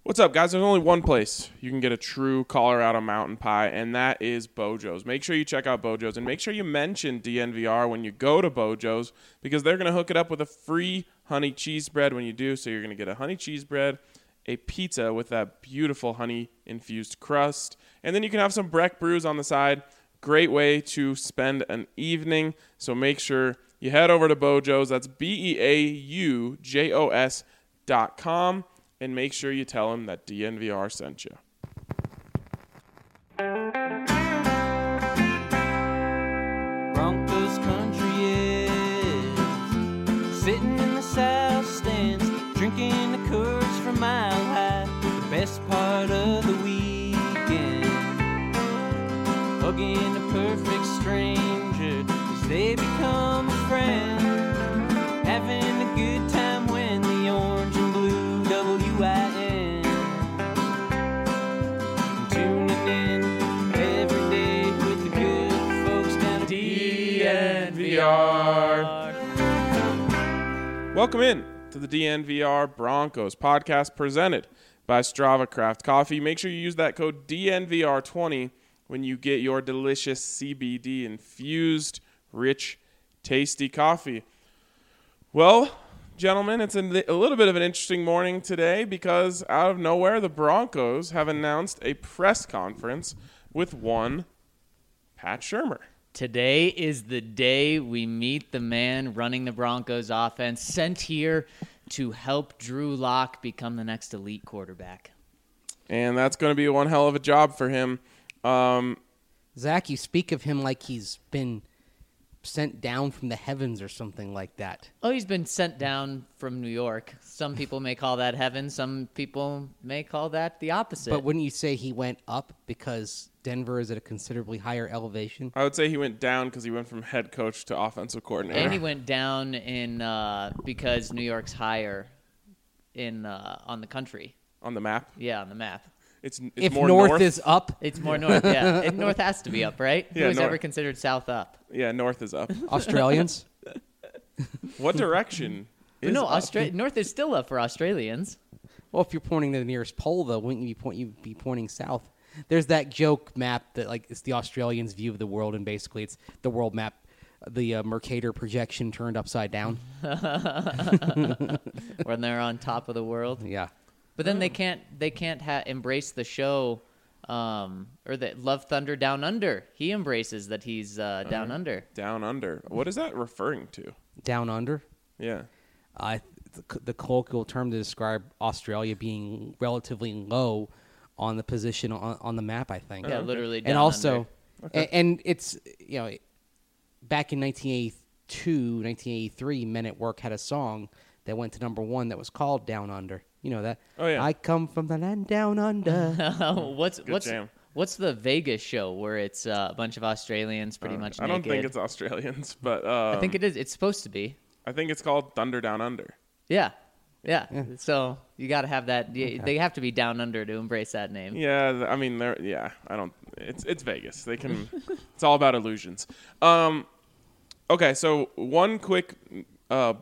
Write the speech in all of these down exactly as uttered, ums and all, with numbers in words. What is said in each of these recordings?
What's up, guys? There's only one place you can get a true Colorado mountain pie, and that is Bojo's. Make sure you check out Bojo's, and make sure you mention D N V R when you go to Bojo's, because they're going to hook it up with a free honey cheese bread when you do. So you're going to get a honey cheese bread, a pizza with that beautiful honey-infused crust, and then you can have some Breck brews on the side. Great way to spend an evening. So make sure you head over to Bojo's. That's B E A U J O S dot com. And make sure you tell them that D N V R sent you. Broncos country is sitting in the south stands, drinking the Coors from Mile High. The best part of the weekend, hugging a perfect stranger as they become a friend, having a good time when the orange and blue W I N. Tuning in every day with the good folks down at D N V R. Welcome in to the D N V R Broncos podcast presented by Strava Craft Coffee. Make sure you use that code D N V R twenty when you get your delicious C B D infused, rich, tasty coffee. Well, gentlemen, it's a, a little bit of an interesting morning today because out of nowhere, the Broncos have announced a press conference with one Pat Shurmur. Today is the day we meet the man running the Broncos offense, sent here to help Drew Lock become the next elite quarterback. And that's going to be one hell of a job for him. Um, Zach, you speak of him like he's been sent down from the heavens or something like that. Oh, he's been sent down from New York. Some people may call that heaven. Some people may call that the opposite. But wouldn't you say he went up because Denver is at a considerably higher elevation? I would say he went down because he went from head coach to offensive coordinator. And he went down in uh, because New York's higher in uh, on the country. On the map? Yeah, on the map. It's, it's if more north, north is up, It's more north, yeah. And north has to be up, right? Yeah, Who was north. ever considered south up? Yeah, north is up. Australians. What direction is no, up? Austra- north is still up for Australians. Well, if you're pointing to the nearest pole, though, wouldn't you be, point, you'd be pointing south? There's that joke map that like it's the Australians' view of the world, and basically it's the world map, the uh, Mercator projection turned upside down. When they're on top of the world. Yeah. But then they can't they can't ha- embrace the show, um, or that Love Thunder Down Under. He embraces that he's uh, down Uh, under. Down under. What is that referring to? Down under. Yeah. Uh, the, the colloquial term to describe Australia being relatively low on the position on, on the map, I think. Yeah, literally down and also, under. Okay. and, and it's, you know, back in nineteen eighty-two, nineteen eighty-three, Men at Work had a song that went to number one that was called Down Under. You know that? Oh, yeah. I come from the land down under. what's Good what's jam. what's the Vegas show where it's uh, a bunch of Australians pretty Uh, much I naked? don't think it's Australians, but um, I think it is. It's supposed to be. I think it's called Thunder Down Under. Yeah. Yeah. So you got to have that. y They have to be down under to embrace that name. Yeah, th- I mean, they're yeah. I don't. It's it's Vegas. They can. It's all about illusions. Um, okay, so one quick uh,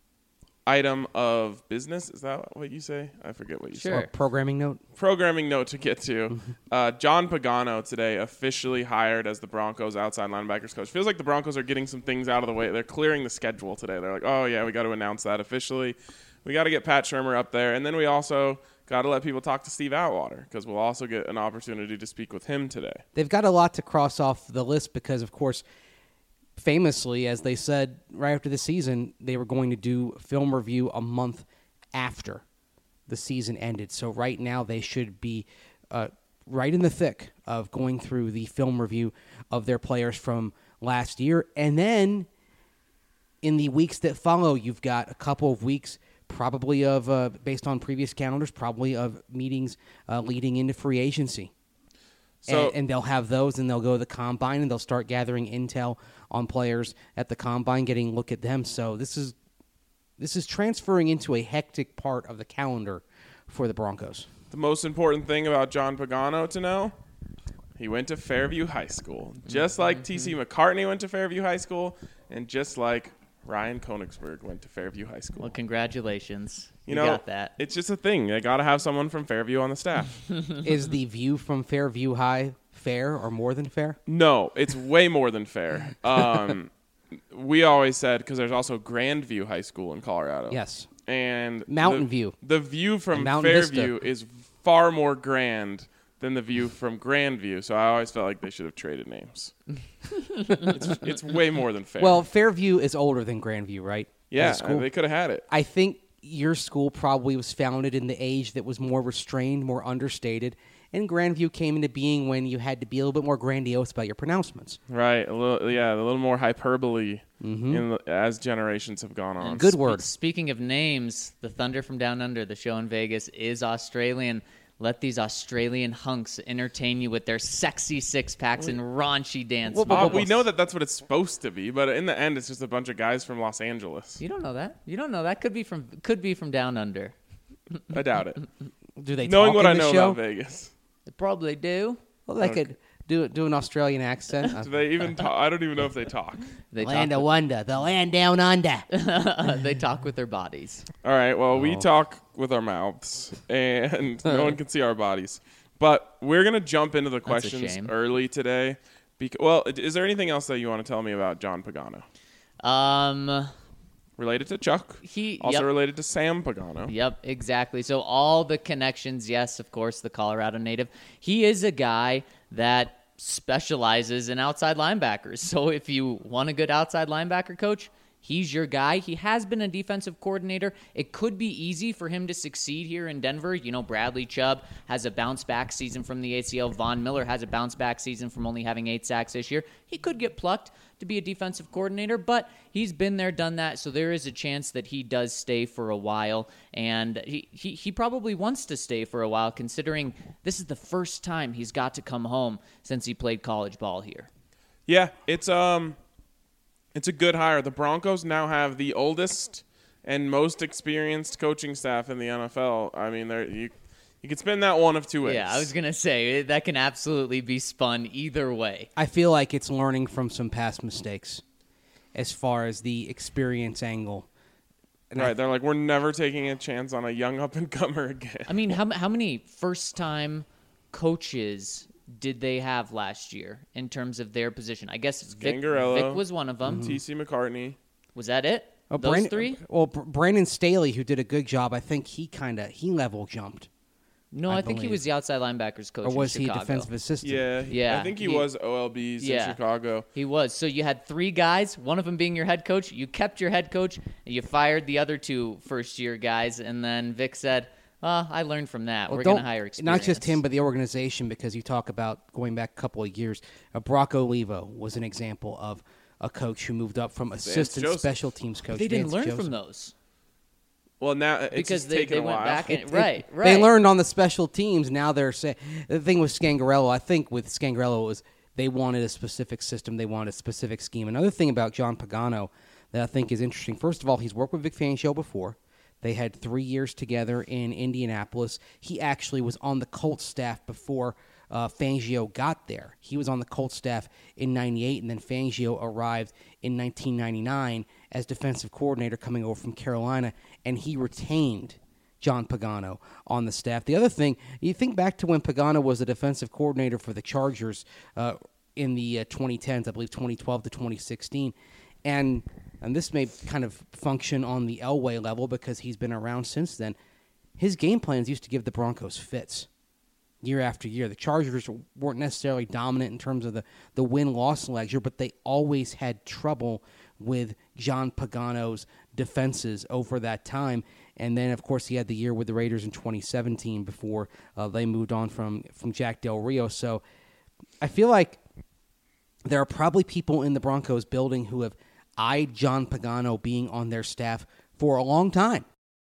item of business. Is that what you say? I forget what you Sure. say. Or programming note. Programming note to get to. Uh, John Pagano today officially hired as the Broncos outside linebackers coach. Feels like the Broncos are getting some things out of the way. They're clearing the schedule today. They're like, oh, yeah, we got to announce that officially. We got to get Pat Shurmur up there. And then we also got to let people talk to Steve Atwater because we'll also get an opportunity to speak with him today. They've got a lot to cross off the list because, of course, famously, as they said right after the season, they were going to do film review a month after the season ended. So right now they should be uh, right in the thick of going through the film review of their players from last year. And then in the weeks that follow, you've got a couple of weeks probably of, uh, based on previous calendars, probably of meetings uh, leading into free agency. So, and, and they'll have those, and they'll go to the combine, and they'll start gathering intel on players at the combine, getting a look at them. So this is this is transferring into a hectic part of the calendar for the Broncos. the most important thing about John Pagano to know, he went to Fairview High School. Just like T C McCartney went to Fairview High School, and just like Ryan Koenigsberg went to Fairview High School. Well, congratulations. you You, know, got that. it's just a thing. They got to have someone from Fairview on the staff. Is the view from Fairview High fair or more than fair? No, it's way more than fair. Um, we always said, because there's also Grandview High School in Colorado. Yes. And Mountain the, View. The view from And Mountain Fairview Vista. is far more grand than the view from Grandview. So I always felt like they should have traded names. it's, it's way more than fair. Well, Fairview is older than Grandview, right? yeah, As a school? they could have had it. I think your school probably was founded in the age that was more restrained, more understated, and Grandview came into being when you had to be a little bit more grandiose about your pronouncements. Right, a little, yeah, a little more hyperbole in the, as generations have gone on. Good Spe- word. Speaking of names, the Thunder from Down Under, the show in Vegas, is Australian. Let these Australian hunks entertain you with their sexy six packs and raunchy dance. Well, Uh, moves. we know that that's what it's supposed to be, but in the end, it's just a bunch of guys from Los Angeles. You don't know that. You don't know that. Could be from could be from Down Under. I doubt it. Do they Knowing talk what in I the know show? about Vegas, They probably do. Well, they could do do an Australian accent. Uh, do they even talk? I don't even know if they talk. They land talk of wonder, the land down under. with, they talk with their bodies. All right. Well, Oh. we talk with our mouths, and no one can see our bodies. But we're gonna jump into the That's a questions shame. early today. Because, well, is there anything else that you want to tell me about John Pagano? Um, Related to Chuck, he also yep. related to Sam Pagano. Yep, exactly. So all the connections, yes, of course, the Colorado native. He is a guy that specializes in outside linebackers. So if you want a good outside linebacker coach, he's your guy. He has been a defensive coordinator. It could be easy for him to succeed here in Denver. You know, Bradley Chubb has a bounce-back season from the A C L. Von Miller has a bounce-back season from only having eight sacks this year. He could get plucked to be a defensive coordinator, but he's been there, done that, so there is a chance that he does stay for a while, and he, he, he probably wants to stay for a while, considering this is the first time he's got to come home since he played college ball here. Yeah, it's um, it's a good hire. The Broncos now have the oldest and most experienced coaching staff in the N F L. I mean, there you you could spin that one of two ways. Yeah, I was going to say, that can absolutely be spun either way. I feel like it's learning from some past mistakes as far as the experience angle. And I- Right, they're like, we're never taking a chance on a young up-and-comer again. I mean, how, how many first-time coaches did they have last year in terms of their position? I guess Vic, Gangarello. Vic was one of them. T C McCartney. Was that it? Oh, Those Brandon- three? Well, Br- Brandon Staley, who did a good job, I think he kind of he level jumped, No, I I, think he believe. was the outside linebackers coach or was in he a Chicago. defensive assistant? Yeah, he- Yeah, I think he, he- was O L Bs Yeah. in Chicago. He was. So you had three guys, one of them being your head coach. You kept your head coach, and you fired the other two first-year guys, and then Vic said, well, I learned from that. Well, We're going to don't- hire experience. Not just him, but the organization, because you talk about going back a couple of years. Uh, Brock Olivo was an example of a coach who moved up from assistant Joseph. special teams coach. They didn't Vance learn Joseph. from those. Well, now it's Because just they, taken they a went while. back and It- right, right. They learned on the special teams. Now they're saying the thing with Scangarello. I think with Scangarello was they wanted a specific system. They wanted a specific scheme. Another thing about John Pagano that I think is interesting. First of all, he's worked with Vic Fangio before. They had three years together in Indianapolis. He actually was on the Colts staff before uh, Fangio got there. He was on the Colts staff in ninety-eight, and then Fangio arrived in nineteen ninety-nine as defensive coordinator coming over from Carolina, and he retained John Pagano on the staff. The other thing, you think back to when Pagano was a defensive coordinator for the Chargers uh, in the uh, twenty tens, I believe twenty twelve to twenty sixteen, and and this may kind of function on the Elway level because he's been around since then. His game plans used to give the Broncos fits year after year. The Chargers weren't necessarily dominant in terms of the, the win-loss ledger, but they always had trouble with John Pagano's defenses over that time. And then, of course, he had the year with the Raiders in twenty seventeen before uh, they moved on from, from Jack Del Rio. So I feel like there are probably people in the Broncos building who have eyed John Pagano being on their staff for a long time.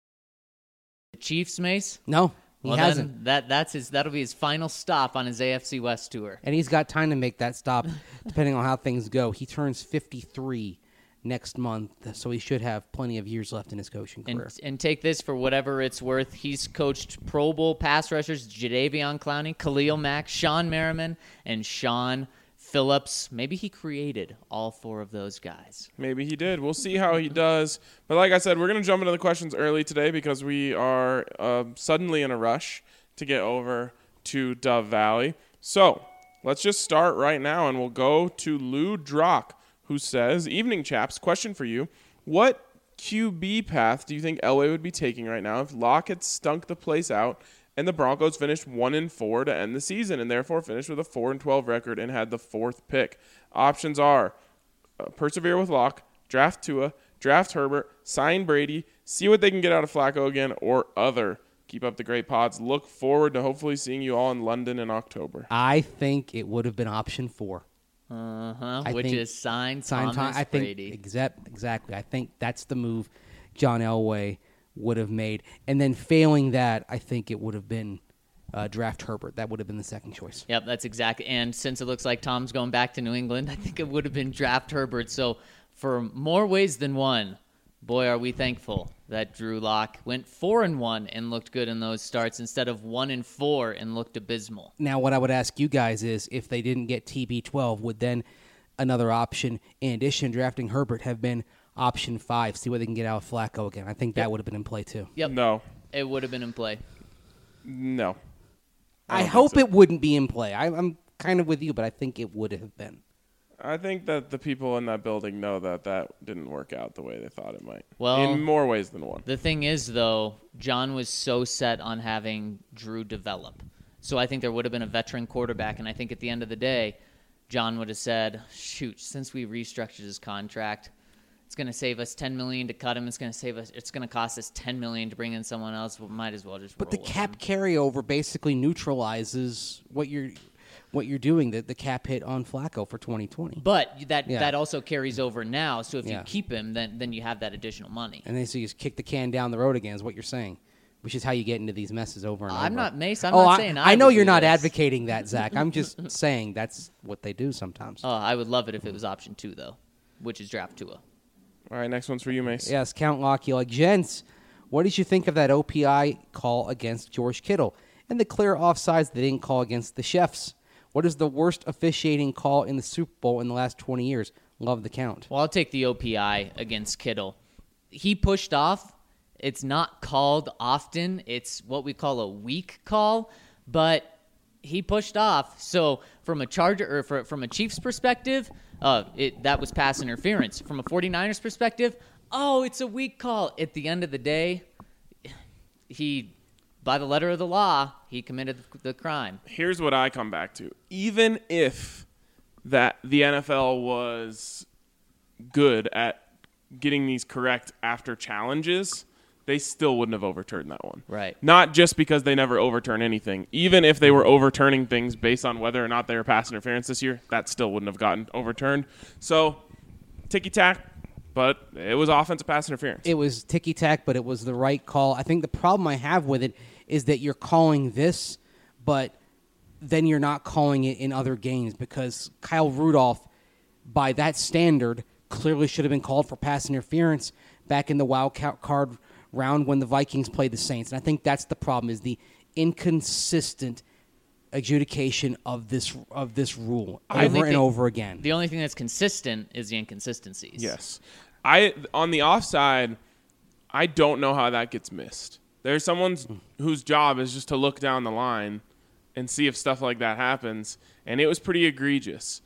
The Chiefs, Mace? No, he Well, hasn't. then that that's his. That'll be his final stop on his A F C West tour. And he's got time to make that stop, depending on how things go. He turns fifty-three next month, so he should have plenty of years left in his coaching career. And, and take this for whatever it's worth. He's coached Pro Bowl pass rushers Jadeveon Clowney, Khalil Mack, Sean Merriman, and Sean Phillips, maybe he created all four of those guys. Maybe he did. We'll see how he does. But like I said, we're going to jump into the questions early today because we are uh, suddenly in a rush to get over to Dove Valley. So let's just start right now, and we'll go to Lou Drock, who says, "Evening, chaps. Question for you. What Q B path do you think Elway would be taking right now if Locke had stunk the place out and the Broncos finished one and four to end the season and therefore finished with a four and twelve record and had the fourth pick? Options are uh, persevere with Locke, draft Tua, draft Herbert, sign Brady, see what they can get out of Flacco again, or other. Keep up the great pods. Look forward to hopefully seeing you all in London in October." I think it would have been option four. Uh-huh, I which think- is signed Sign Thomas Tom- I think Brady. exact, exactly. I think that's the move John Elway would have made. And then failing that, I think it would have been uh, draft Herbert. That would have been the second choice. Yep, that's exactly. And since it looks like Tom's going back to New England, I think it would have been draft Herbert. So for more ways than one, boy, are we thankful that Drew Lock went four and one and looked good in those starts instead of one and four and looked abysmal. Now, what I would ask you guys is, if they didn't get T B twelve, would then another option, in addition to drafting Herbert, have been option five? See what they can get out of Flacco again. I think that Yep. would have been in play too. Yep, No. it would have been in play. No. I, don't think hope so. it wouldn't be in play. I, I'm kind of with you, but I think it would have been. I think that the people in that building know that that didn't work out the way they thought it might. Well- in more ways than one. The thing is, though, John was so set on having Drew develop. So I think there would have been a veteran quarterback, and I think at the end of the day, John would have said, shoot, since we restructured his contract, it's going to save us ten million dollars to cut him. It's going to save us. It's going to cost us ten million dollars to bring in someone else. We might as well just But roll the with cap him. carryover basically neutralizes what you're what you're doing, the, the cap hit on Flacco for twenty twenty. But that Yeah. that also carries over now. So if Yeah. you keep him, then then you have that additional money. And then so you just kick the can down the road again is what you're saying, which is how you get into these messes over and over. I'm not Mace. I'm oh, not I, saying I, I know would you're do not this. advocating that, Zach. I'm just saying that's what they do sometimes. Oh, I would love it if it was option two, though, which is draft Tua. All right, next one's for you, Mace. Yes, Count Lockheed. Like, gents, what did you think of that O P I call against George Kittle and the clear offsides they didn't call against the Chefs? What is the worst officiating call in the Super Bowl in the last twenty years? Love the count. Well, I'll take the O P I against Kittle. He pushed off. It's not called often. It's what we call a weak call, but he pushed off. So from a Charger or for, from a Chiefs perspective, uh, it, that was pass interference. From a 49ers perspective, oh, it's a weak call. At the end of the day, he, by the letter of the law, he committed the crime. Here's what I come back to. Even if that the N F L was good at getting these correct after challenges, they still wouldn't have overturned that one. Right. Not just because they never overturn anything. Even if they were overturning things based on whether or not they were pass interference this year, that still wouldn't have gotten overturned. So, ticky-tack, but it was offensive pass interference. It was ticky-tack, but it was the right call. I think the problem I have with it is that you're calling this, but then you're not calling it in other games because Kyle Rudolph, by that standard, clearly should have been called for pass interference back in the wild card round when the Vikings played the Saints. And I think that's the problem, is the inconsistent adjudication of this of this rule The only over and thing- over again. The only thing that's consistent is the inconsistencies. Yes. I on the offside, I don't know how that gets missed. There's someone's whose job is just to look down the line and see if stuff like that happens, and it was pretty egregious.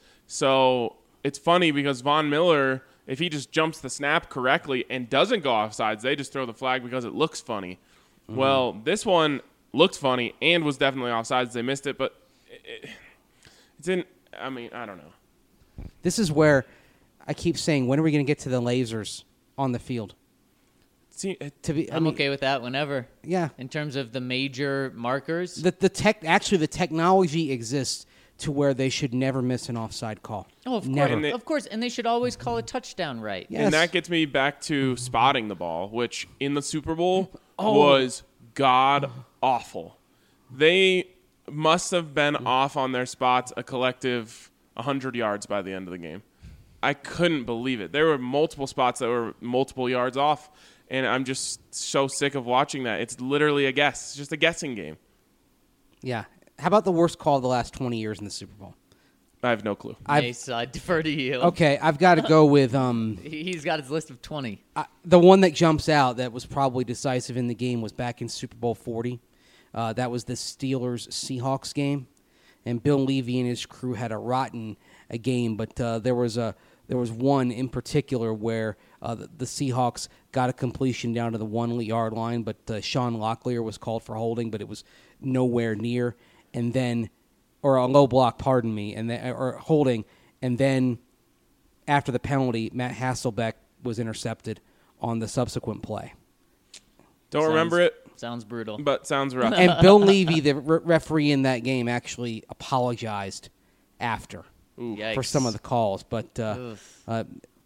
So it's funny because Von Miller, if he just jumps the snap correctly and doesn't go offsides, they just throw the flag because it looks funny. Mm-hmm. Well, this one looked funny and was definitely offsides. They missed it, but it, it didn't. I mean, I don't know. This is where I keep saying, when are we going to get to the lasers on the field? See, it, To be, I I'm mean, okay with that whenever. Yeah. In terms of the major markers. The the tech actually the technology exists to where they should never miss an offside call. Oh, of course. Never. And they- of course. And they should always call a touchdown right. Yes. And that gets me back to spotting the ball, which in the Super Bowl Oh. was god awful. They must have been off on their spots a collective one hundred yards by the end of the game. I couldn't believe it. There were multiple spots that were multiple yards off, and I'm just so sick of watching that. It's literally a guess. It's just a guessing game. Yeah. How about the worst call of the last twenty years in the Super Bowl? I have no clue. I've- Mace, I defer to you. Okay, I've got to go with um, He- He's got his list of twenty. I, the one that jumps out that was probably decisive in the game was back in Super Bowl forty. Uh, that was the Steelers-Seahawks game, and Bill Levy and his crew had a rotten a game, but uh, there was a there was one in particular where uh, the, the Seahawks got a completion down to the one-yard line, but uh, Sean Locklear was called for holding, but it was nowhere near, and then or a low block, pardon me, and then, or holding, and then after the penalty, Matt Hasselbeck was intercepted on the subsequent play. Don't Sounds- remember it, Sounds brutal. but sounds rough. And Bill Levy, the re- referee in that game, actually apologized after Yikes. for some of the calls, but uh, Ugh. uh,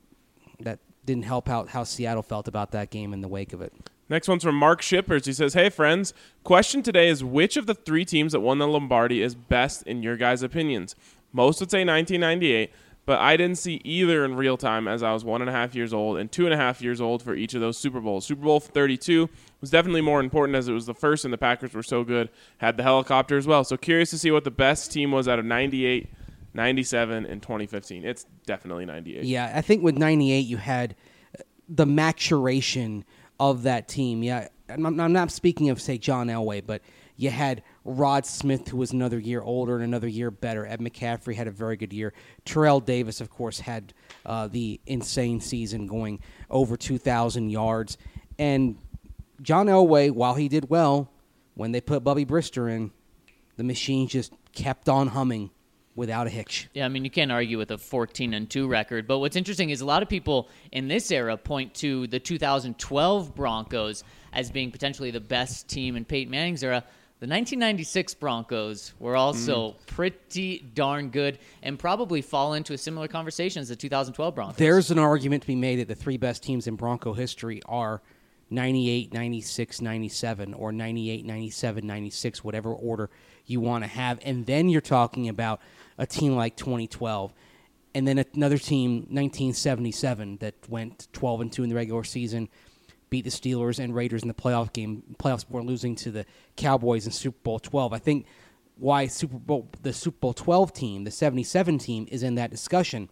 that didn't help out how Seattle felt about that game in the wake of it. Next one's from Mark Shippers. He says, "Hey friends, question today is which of the three teams that won the Lombardi is best in your guys' opinions? Most would say nineteen ninety-eight, but I didn't see either in real time as I was one and a half years old and two and a half years old for each of those Super Bowls. Super Bowl thirty-two was definitely more important as it was the first and the Packers were so good. Had the helicopter as well. So curious to see what the best team was out of ninety-eight, ninety-seven, and twenty fifteen. It's definitely ninety-eight. Yeah, I think with ninety-eight you had the maturation of that team. Yeah, I'm, I'm not speaking of, say, John Elway, but you had Rod Smith, who was another year older and another year better. Ed McCaffrey had a very good year. Terrell Davis, of course, had uh, the insane season going over two thousand yards. And John Elway, while he did well, when they put Bubby Brister in, the machine just kept on humming without a hitch. Yeah, I mean, you can't argue with a fourteen and two record. But what's interesting is a lot of people in this era point to the two thousand twelve Broncos as being potentially the best team in Peyton Manning's era. The nineteen ninety-six Broncos were also Mm. pretty darn good and probably fall into a similar conversation as the two thousand twelve Broncos. There's an argument to be made that the three best teams in Bronco history are ninety-eight, ninety-six, ninety-seven, or ninety-eight, ninety-seven, ninety-six, whatever order you want to have. And then you're talking about a team like twenty twelve. And then another team, nineteen seventy-seven, that went twelve and two in the regular season, beat the Steelers and Raiders in the playoff game, playoffs before losing to the Cowboys in Super Bowl twelve. I think why Super Bowl the Super Bowl twelve team, the seventy-seven team, is in that discussion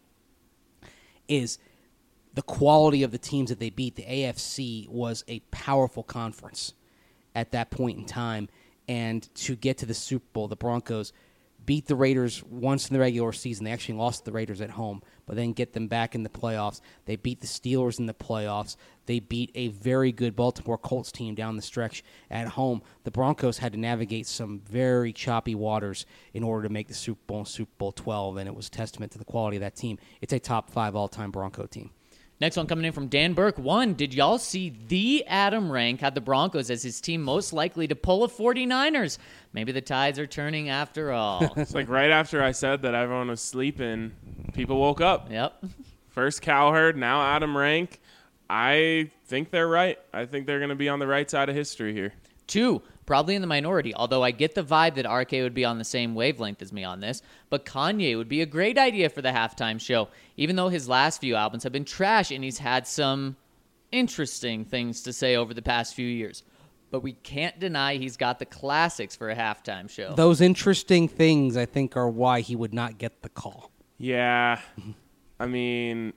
is the quality of the teams that they beat. The A F C was a powerful conference at that point in time, and to get to the Super Bowl, the Broncos beat the Raiders once in the regular season. They actually lost the Raiders at home, but then get them back in the playoffs. They beat the Steelers in the playoffs. They beat a very good Baltimore Colts team down the stretch at home. The Broncos had to navigate some very choppy waters in order to make the Super Bowl and Super Bowl twelve, and it was a testament to the quality of that team. It's a top five all-time Bronco team. Next one coming in from Dan Burke. One, did y'all see the Adam Rank had the Broncos as his team most likely to pull a forty-niners? Maybe the tides are turning after all. It's like right after I said that everyone was sleeping, people woke up. Yep. First Cowherd, now Adam Rank. I think they're right. I think they're going to be on the right side of history here. Two, probably in the minority, although I get the vibe that R K would be on the same wavelength as me on this, but Kanye would be a great idea for the halftime show, even though his last few albums have been trash and he's had some interesting things to say over the past few years. But we can't deny he's got the classics for a halftime show. Those interesting things, I think, are why he would not get the call. Yeah. I mean,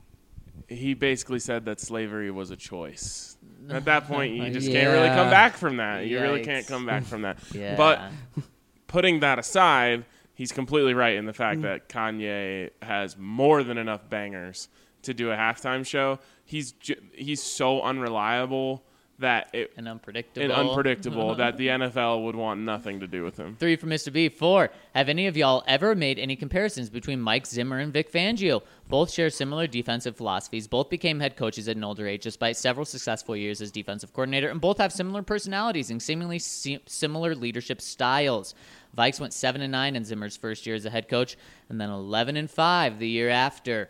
he basically said that slavery was a choice. At that point, you just can't really come Yeah. back from that. You really Yikes. can't come back from that. Yeah. But putting that aside, he's completely right in the fact that Kanye has more than enough bangers to do a halftime show. He's ju- he's so unreliable that it and unpredictable. and unpredictable that the N F L would want nothing to do with him. Three from Mister B. Four, have any of y'all ever made any comparisons between Mike Zimmer and Vic Fangio? Both share similar defensive philosophies. Both became head coaches at an older age despite several successful years as defensive coordinator, and both have similar personalities and seemingly se- similar leadership styles. Vikes went seven and nine in Zimmer's first year as a head coach, and then eleven and five the year after.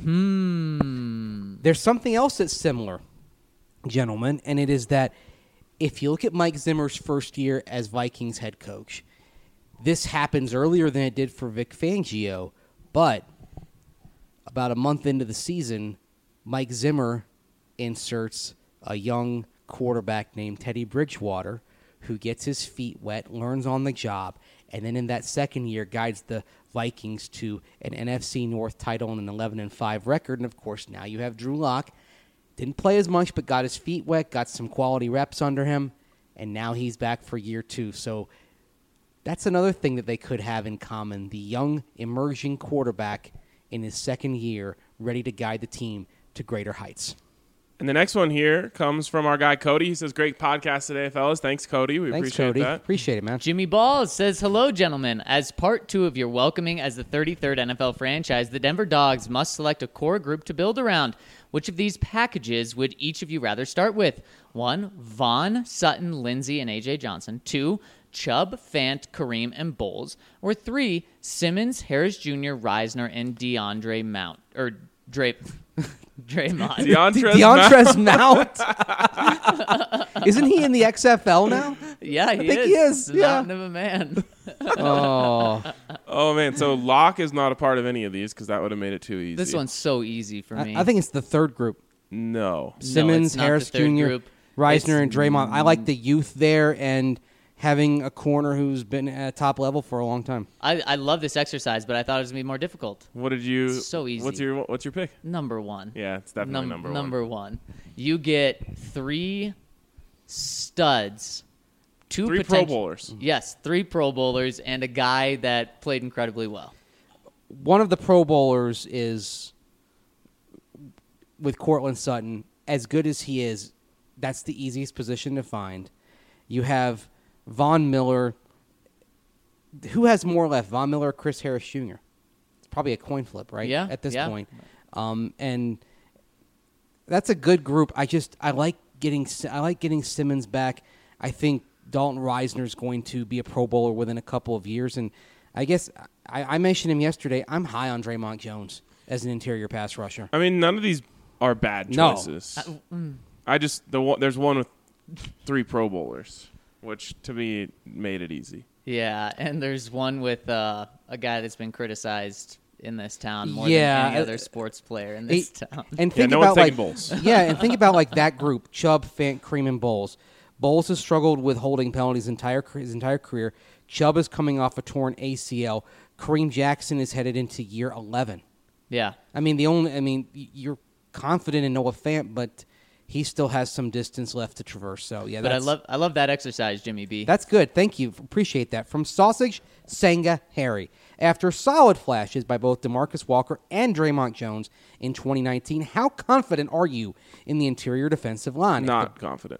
Hmm. There's something else that's similar, gentlemen, and it is that if you look at Mike Zimmer's first year as Vikings head coach, this happens earlier than it did for Vic Fangio, but about a month into the season, Mike Zimmer inserts a young quarterback named Teddy Bridgewater who gets his feet wet, learns on the job, and then in that second year guides the Vikings to an N F C North title and an eleven and five record. And, of course, now you have Drew Lock. Didn't play as much, but got his feet wet, got some quality reps under him, and now he's back for year two. So that's another thing that they could have in common, the young, emerging quarterback in his second year, ready to guide the team to greater heights. And the next one here comes from our guy, Cody. He says, great podcast today, fellas. Thanks, Cody. We Thanks, appreciate Cody. that. Appreciate it, man. Jimmy Balls says, hello, gentlemen. As part two of your welcoming as the thirty-third N F L franchise, the Denver Dogs must select a core group to build around. Which of these packages would each of you rather start with? One, Vaughn, Sutton, Lindsey, and A J Johnson. Two, Chubb, Fant, Kareem, and Bowles. Or three, Simmons, Harris Junior, Reisner, and DeAndre Mount. Or Dre... Draymond. DeAndre's DeAndre's Mount. Isn't he in the X F L now? Yeah, he I think is. he is, The yeah. mountain of a man. Oh, Oh, man. So Locke is not a part of any of these because that would have made it too easy. This one's so easy for me. I, I think it's the third group. No. Simmons, it's not Harris the third Junior, group. Reisner, It's- and Draymond. I like the youth there and having a corner who's been at top level for a long time. I, I love this exercise, but I thought it was going to be more difficult. What did you... So easy. What's your What's your pick? Number one. Yeah, it's definitely Num- number one. Number one. You get three studs. Two Three Pro potent- Bowlers. Yes, three Pro Bowlers and a guy that played incredibly well. One of the Pro Bowlers is, with Cortland Sutton, as good as he is, that's the easiest position to find. You have Von Miller. Who has more left, Von Miller or Chris Harris Junior? It's probably a coin flip, right? Yeah, At this yeah. point. Um, and that's a good group. I just I like getting I like getting Simmons back. I think Dalton Reisner is going to be a Pro Bowler within a couple of years, and I guess I, I mentioned him yesterday. I'm high on Draymond Jones as an interior pass rusher. I mean, none of these are bad No. choices. mm. I just... the one, There's one with three Pro Bowlers, which to me made it easy. Yeah, and there's one with uh, a guy that's been criticized in this town more Yeah, than any uh, other sports player in this It- town. And Yeah, think no one's about like taking Bowles. yeah, and think about like that group: Chubb, Fant, Kareem, and Bowles. Bowles has struggled with holding penalties entire his entire career. Chubb is coming off a torn A C L. Kareem Jackson is headed into year eleven. Yeah. I mean, the only I mean, y- you're confident in Noah Fant, but he still has some distance left to traverse. So yeah, But I that's, love I love that exercise, Jimmy B. that's good. Thank you. Appreciate that. From Sausage, Senga, Harry. After solid flashes by both DeMarcus Walker and Draymond Jones in twenty nineteen, how confident are you in the interior defensive line? Not confident.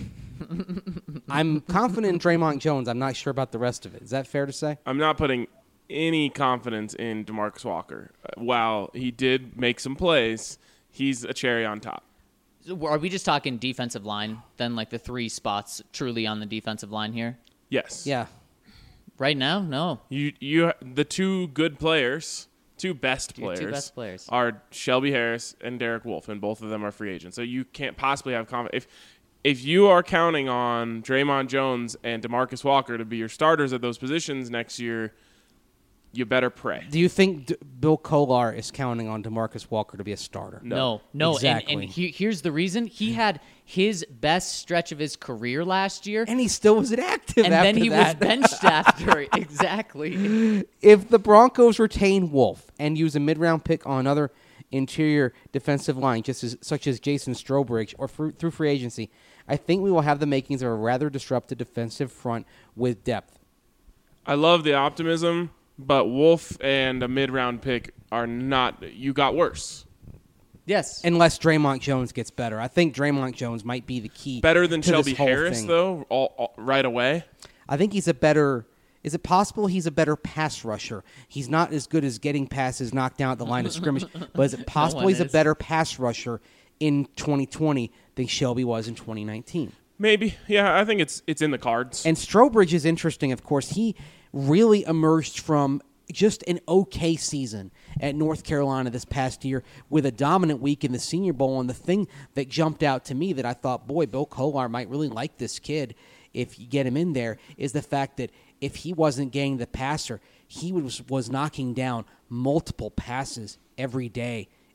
I'm confident in Draymond Jones. I'm not sure about the rest of it. Is that fair to say? I'm not putting any confidence in DeMarcus Walker. Uh, While he did make some plays, he's a cherry on top. So are we just talking defensive line? Then like the three spots truly on the defensive line here? Yes. Yeah. Right now? No. You you the two good players, two best Your players, two best players. are Shelby Harris and Derek Wolfe, and both of them are free agents. So you can't possibly have confidence. If if you are counting on Draymond Jones and DeMarcus Walker to be your starters at those positions next year, you better pray. Do you think D- Bill Kolar is counting on DeMarcus Walker to be a starter? No. No, no. Exactly. And, and he, here's the reason. He had his best stretch of his career last year, And he still was inactive and after then he that. was benched after. Exactly. If the Broncos retain Wolf and use a mid-round pick on another interior defensive line, just as, such as Jason Strobridge, or fr- through free agency, I think we will have the makings of a rather disrupted defensive front with depth. I love the optimism, but Wolf and a mid-round pick are not. You got worse. Yes. Unless Draymond Jones gets better. I think Draymond Jones might be the key. Better than to this Shelby whole Harris, thing. though, all, all, right away. I think he's a better. Is it possible he's a better pass rusher? He's not as good as getting passes knocked down at the line of scrimmage, but is it possible one he's a is. better pass rusher in twenty twenty than Shelby was in twenty nineteen? Maybe. Yeah, I think it's it's in the cards. And Strobridge is interesting, of course. He really emerged from just an okay season at North Carolina this past year with a dominant week in the Senior Bowl. And the thing that jumped out to me that I thought, boy, Bill Kolar might really like this kid if you get him in there, is the fact that if he wasn't getting the passer, he was, was knocking down multiple passes every day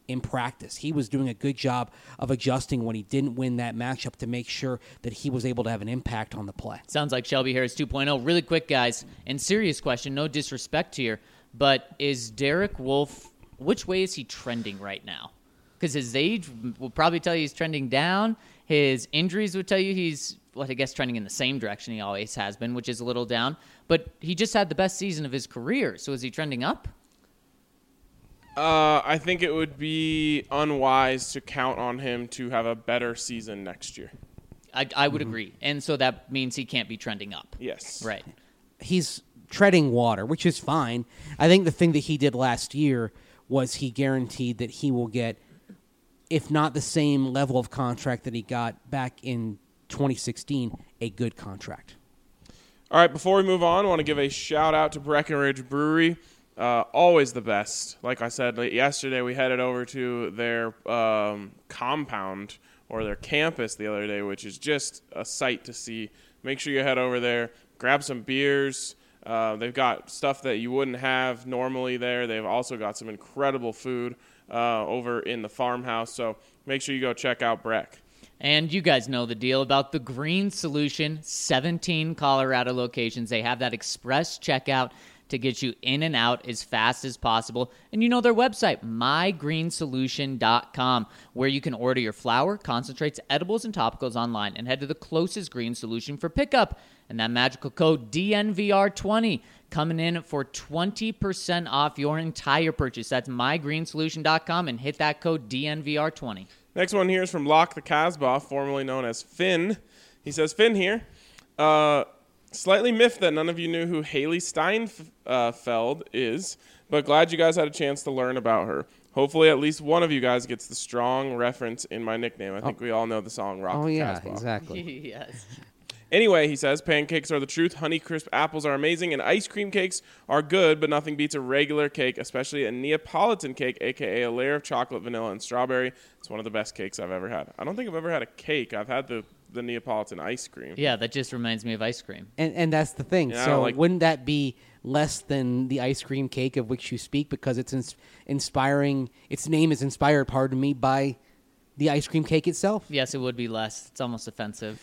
in practice. He was doing a good job of adjusting when he didn't win that matchup to make sure that he was able to have an impact on the play. Sounds like Shelby Harris two point oh. Really quick, guys, and serious question, no disrespect here, but is Derek Wolfe, which way is he trending right now? Because his age will probably tell you he's trending down. His injuries would tell you he's, well, I guess, trending in the same direction he always has been, which is a little down. But he just had the best season of his career, so is he trending up? Uh, I think it would be unwise to count on him to have a better season next year. I, I would mm-hmm. agree. And so that means he can't be trending up. Yes. Right. He's treading water, which is fine. I think the thing that he did last year was he guaranteed that he will get, if not the same level of contract that he got back in twenty sixteen, a good contract. All right, before we move on, I want to give a shout-out to Breckenridge Brewery. Uh, always the best. Like I said yesterday, we headed over to their um, compound or their campus the other day, which is just a sight to see. Make sure you head over there, grab some beers. Uh, they've got stuff that you wouldn't have normally there. They've also got some incredible food uh, over in the farmhouse. So make sure you go check out Breck. And you guys know the deal about the Green Solution, seventeen Colorado locations. They have that express checkout to get you in and out as fast as possible. And you know their website, my green solution dot com, where you can order your flour, concentrates, edibles, and topicals online and head to the closest Green Solution for pickup. And that magical code D N V R twenty coming in for twenty percent off your entire purchase. That's my green solution dot com and hit that code D N V R twenty. Next one here is from Locke the Casbah, formerly known as Finn. He says, Finn here. Uh, slightly miffed that none of you knew who Haley Steinfeld is, but glad you guys had a chance to learn about her. Hopefully at least one of you guys gets the strong reference in my nickname. I think oh. we all know the song Rock oh, the yeah, Casbah. Exactly. Yes. Anyway, he says, pancakes are the truth. Honey Crisp apples are amazing, and ice cream cakes are good, but nothing beats a regular cake, especially a Neapolitan cake, a k a a layer of chocolate, vanilla, and strawberry. It's one of the best cakes I've ever had. I don't think I've ever had a cake. I've had the, the Neapolitan ice cream. Yeah, that just reminds me of ice cream. And and that's the thing. Yeah, so like, wouldn't that be less than the ice cream cake of which you speak, because it's ins- inspiring, its name is inspired, pardon me, by the ice cream cake itself? Yes, it would be less. It's almost offensive.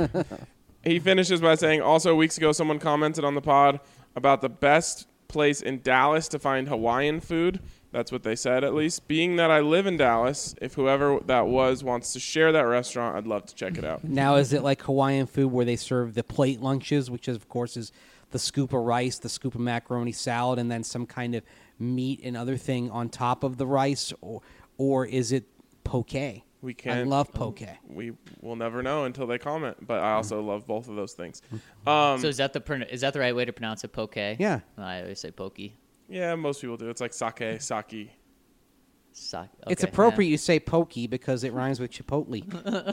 He finishes by saying, also, weeks ago, someone commented on the pod about the best place in Dallas to find Hawaiian food. That's what they said, at least. Being that I live in Dallas, if whoever that was wants to share that restaurant, I'd love to check it out. Now, is it like Hawaiian food where they serve the plate lunches, which, is, of course, is the scoop of rice, the scoop of macaroni salad, and then some kind of meat and other thing on top of the rice? Or, or is it poke? We can't. I love poke. We will never know until they comment. But I also mm. love both of those things. Um, so is that the is that the right way to pronounce it? Poke. Yeah. I always say pokey. Yeah, most people do. It's like sake, sake. Sa- okay, it's appropriate yeah. you say pokey because it rhymes with chipotle.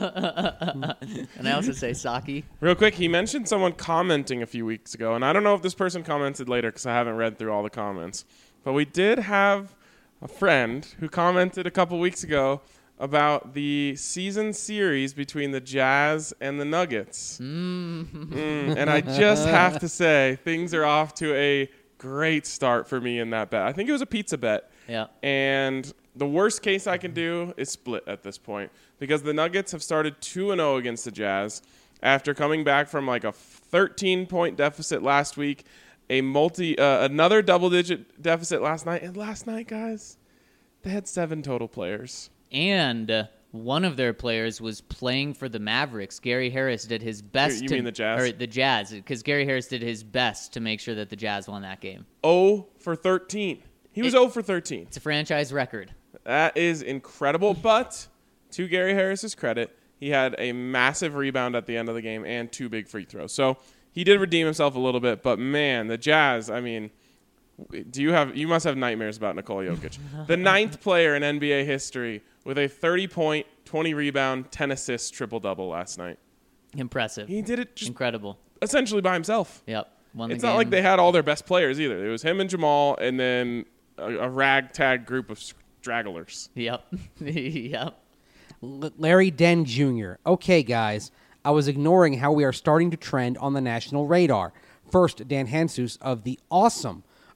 And I also say sake. Real quick, he mentioned someone commenting a few weeks ago, and I don't know if this person commented later because I haven't read through all the comments. But we did have a friend who commented a couple weeks ago about the season series between the Jazz and the Nuggets. Mm. Mm, and I just have to say, things are off to a great start for me in that bet. I think it was a pizza bet. Yeah. And the worst case I can do is split at this point because the Nuggets have started two and oh against the Jazz after coming back from like a thirteen-point deficit last week, a multi, uh, another double-digit deficit last night. And last night, guys, they had seven total players. And uh, one of their players was playing for the Mavericks. Gary Harris did his best. You to, mean the Jazz? Or the Jazz, because Gary Harris did his best to make sure that the Jazz won that game. oh for thirteen. He was it, oh for thirteen. It's a franchise record. That is incredible. But to Gary Harris's credit, he had a massive rebound at the end of the game and two big free throws. So he did redeem himself a little bit. But, man, the Jazz, I mean, do you have you must have nightmares about Nikola Jokic. The ninth player in N B A history with a thirty-point, twenty-rebound, ten assists triple-double last night. Impressive. He did it just incredible. Essentially by himself. Yep. Won the it's game. not like they had all their best players either. It was him and Jamal and then a, a ragtag group of stragglers. Yep. Yep. L- Larry Den Junior Okay, guys, I was ignoring how we are starting to trend on the national radar. First, Dan Jesus of the awesome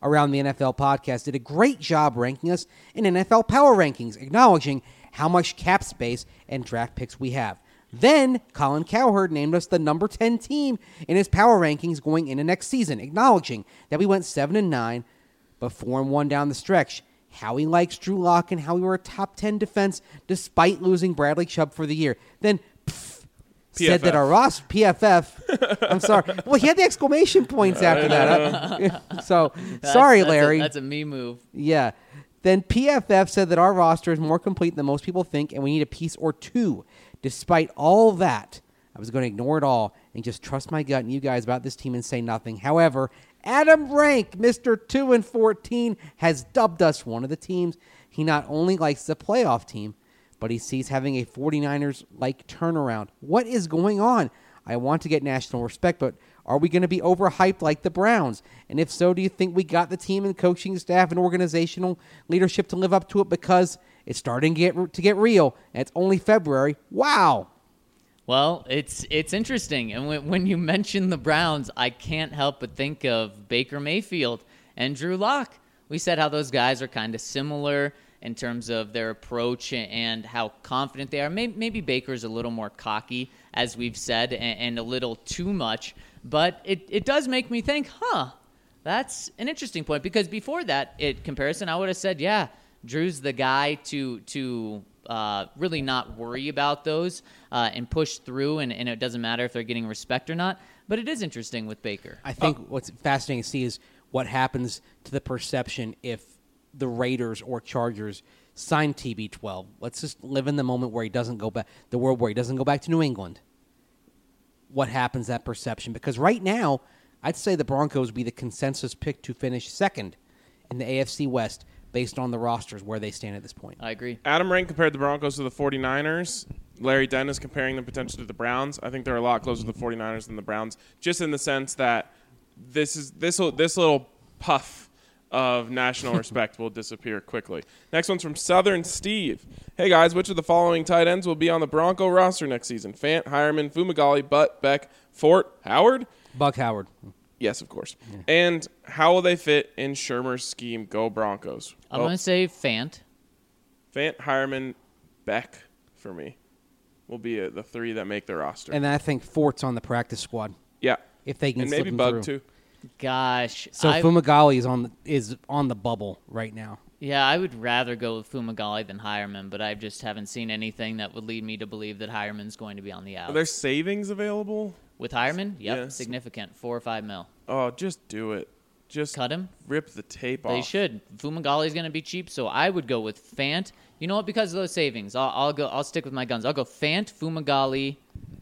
Around the N F L podcast did a great job ranking us in N F L Power Rankings, acknowledging how much cap space and draft picks we have. Then, Colin Cowherd named us the number ten team in his power rankings going into next season, acknowledging that we went seven and nine, but four and one down the stretch. How he likes Drew Lock and how we were a top ten defense despite losing Bradley Chubb for the year. Then, pff, said that our roster, P F F, I'm sorry. Well, he had the exclamation points after that. so, That's- sorry, that's a- Larry. that's a me move. Yeah. Then P F F said that our roster is more complete than most people think, and we need a piece or two. Despite all that, I was going to ignore it all and just trust my gut and you guys about this team and say nothing. However, Adam Rank, Mister two and fourteen, has dubbed us one of the teams he not only likes the playoff team, but he sees having a 49ers-like turnaround. What is going on? I want to get national respect, but are we going to be overhyped like the Browns? And if so, do you think we got the team and coaching staff and organizational leadership to live up to it? Because it's starting to get, to get real, and it's only February. Wow. Well, it's it's interesting, and when, when you mention the Browns, I can't help but think of Baker Mayfield and Drew Lock. We said how those guys are kind of similar in terms of their approach and how confident they are. Maybe, maybe Baker's a little more cocky, as we've said, and, and a little too much. But it, it does make me think, huh, that's an interesting point. Because before that it, comparison, I would have said, yeah, Drew's the guy to to uh, really not worry about those uh, and push through, and, and it doesn't matter if they're getting respect or not. But it is interesting with Baker. I think what's fascinating to see is what happens to the perception if the Raiders or Chargers sign T B twelve. Let's just live in the moment where he doesn't go back, the world where he doesn't go back to New England. What happens to that perception? Because right now, I'd say the Broncos would be the consensus pick to finish second in the A F C West based on the rosters where they stand at this point. I agree. Adam Rank compared the Broncos to the 49ers. Larry Dennis comparing them potentially to the Browns. I think they're a lot closer to the 49ers than the Browns, just in the sense that this is this this little puff of national respect will disappear quickly. Next one's from Southern Steve. Hey, guys, which of the following tight ends will be on the Bronco roster next season? Fant, Hireman, Fumagalli, Butt, Beck, Fort, Howard? Buck Howard. Yes, of course. Yeah. And how will they fit in Shermer's scheme? Go Broncos. I'm well, going to say Fant. Fant, Hireman, Beck for me will be a, the three that make the roster. And I think Fort's on the practice squad. Yeah. If they can and slip maybe him Bug, through. too. Gosh. So I, Fumagalli is on the, is on the bubble right now. Yeah, I would rather go with Fumagalli than Hireman, but I just haven't seen anything that would lead me to believe that Hireman's going to be on the out. Are there savings available? With Hireman? Yep, Yes. significant. Four or five mil. Oh, just do it. Just Cut him? rip the tape off. They should. Fumagalli's going to be cheap, so I would go with Fant. You know what? Because of those savings, I'll, I'll go. I'll stick with my guns. I'll go Fant, Fumagalli,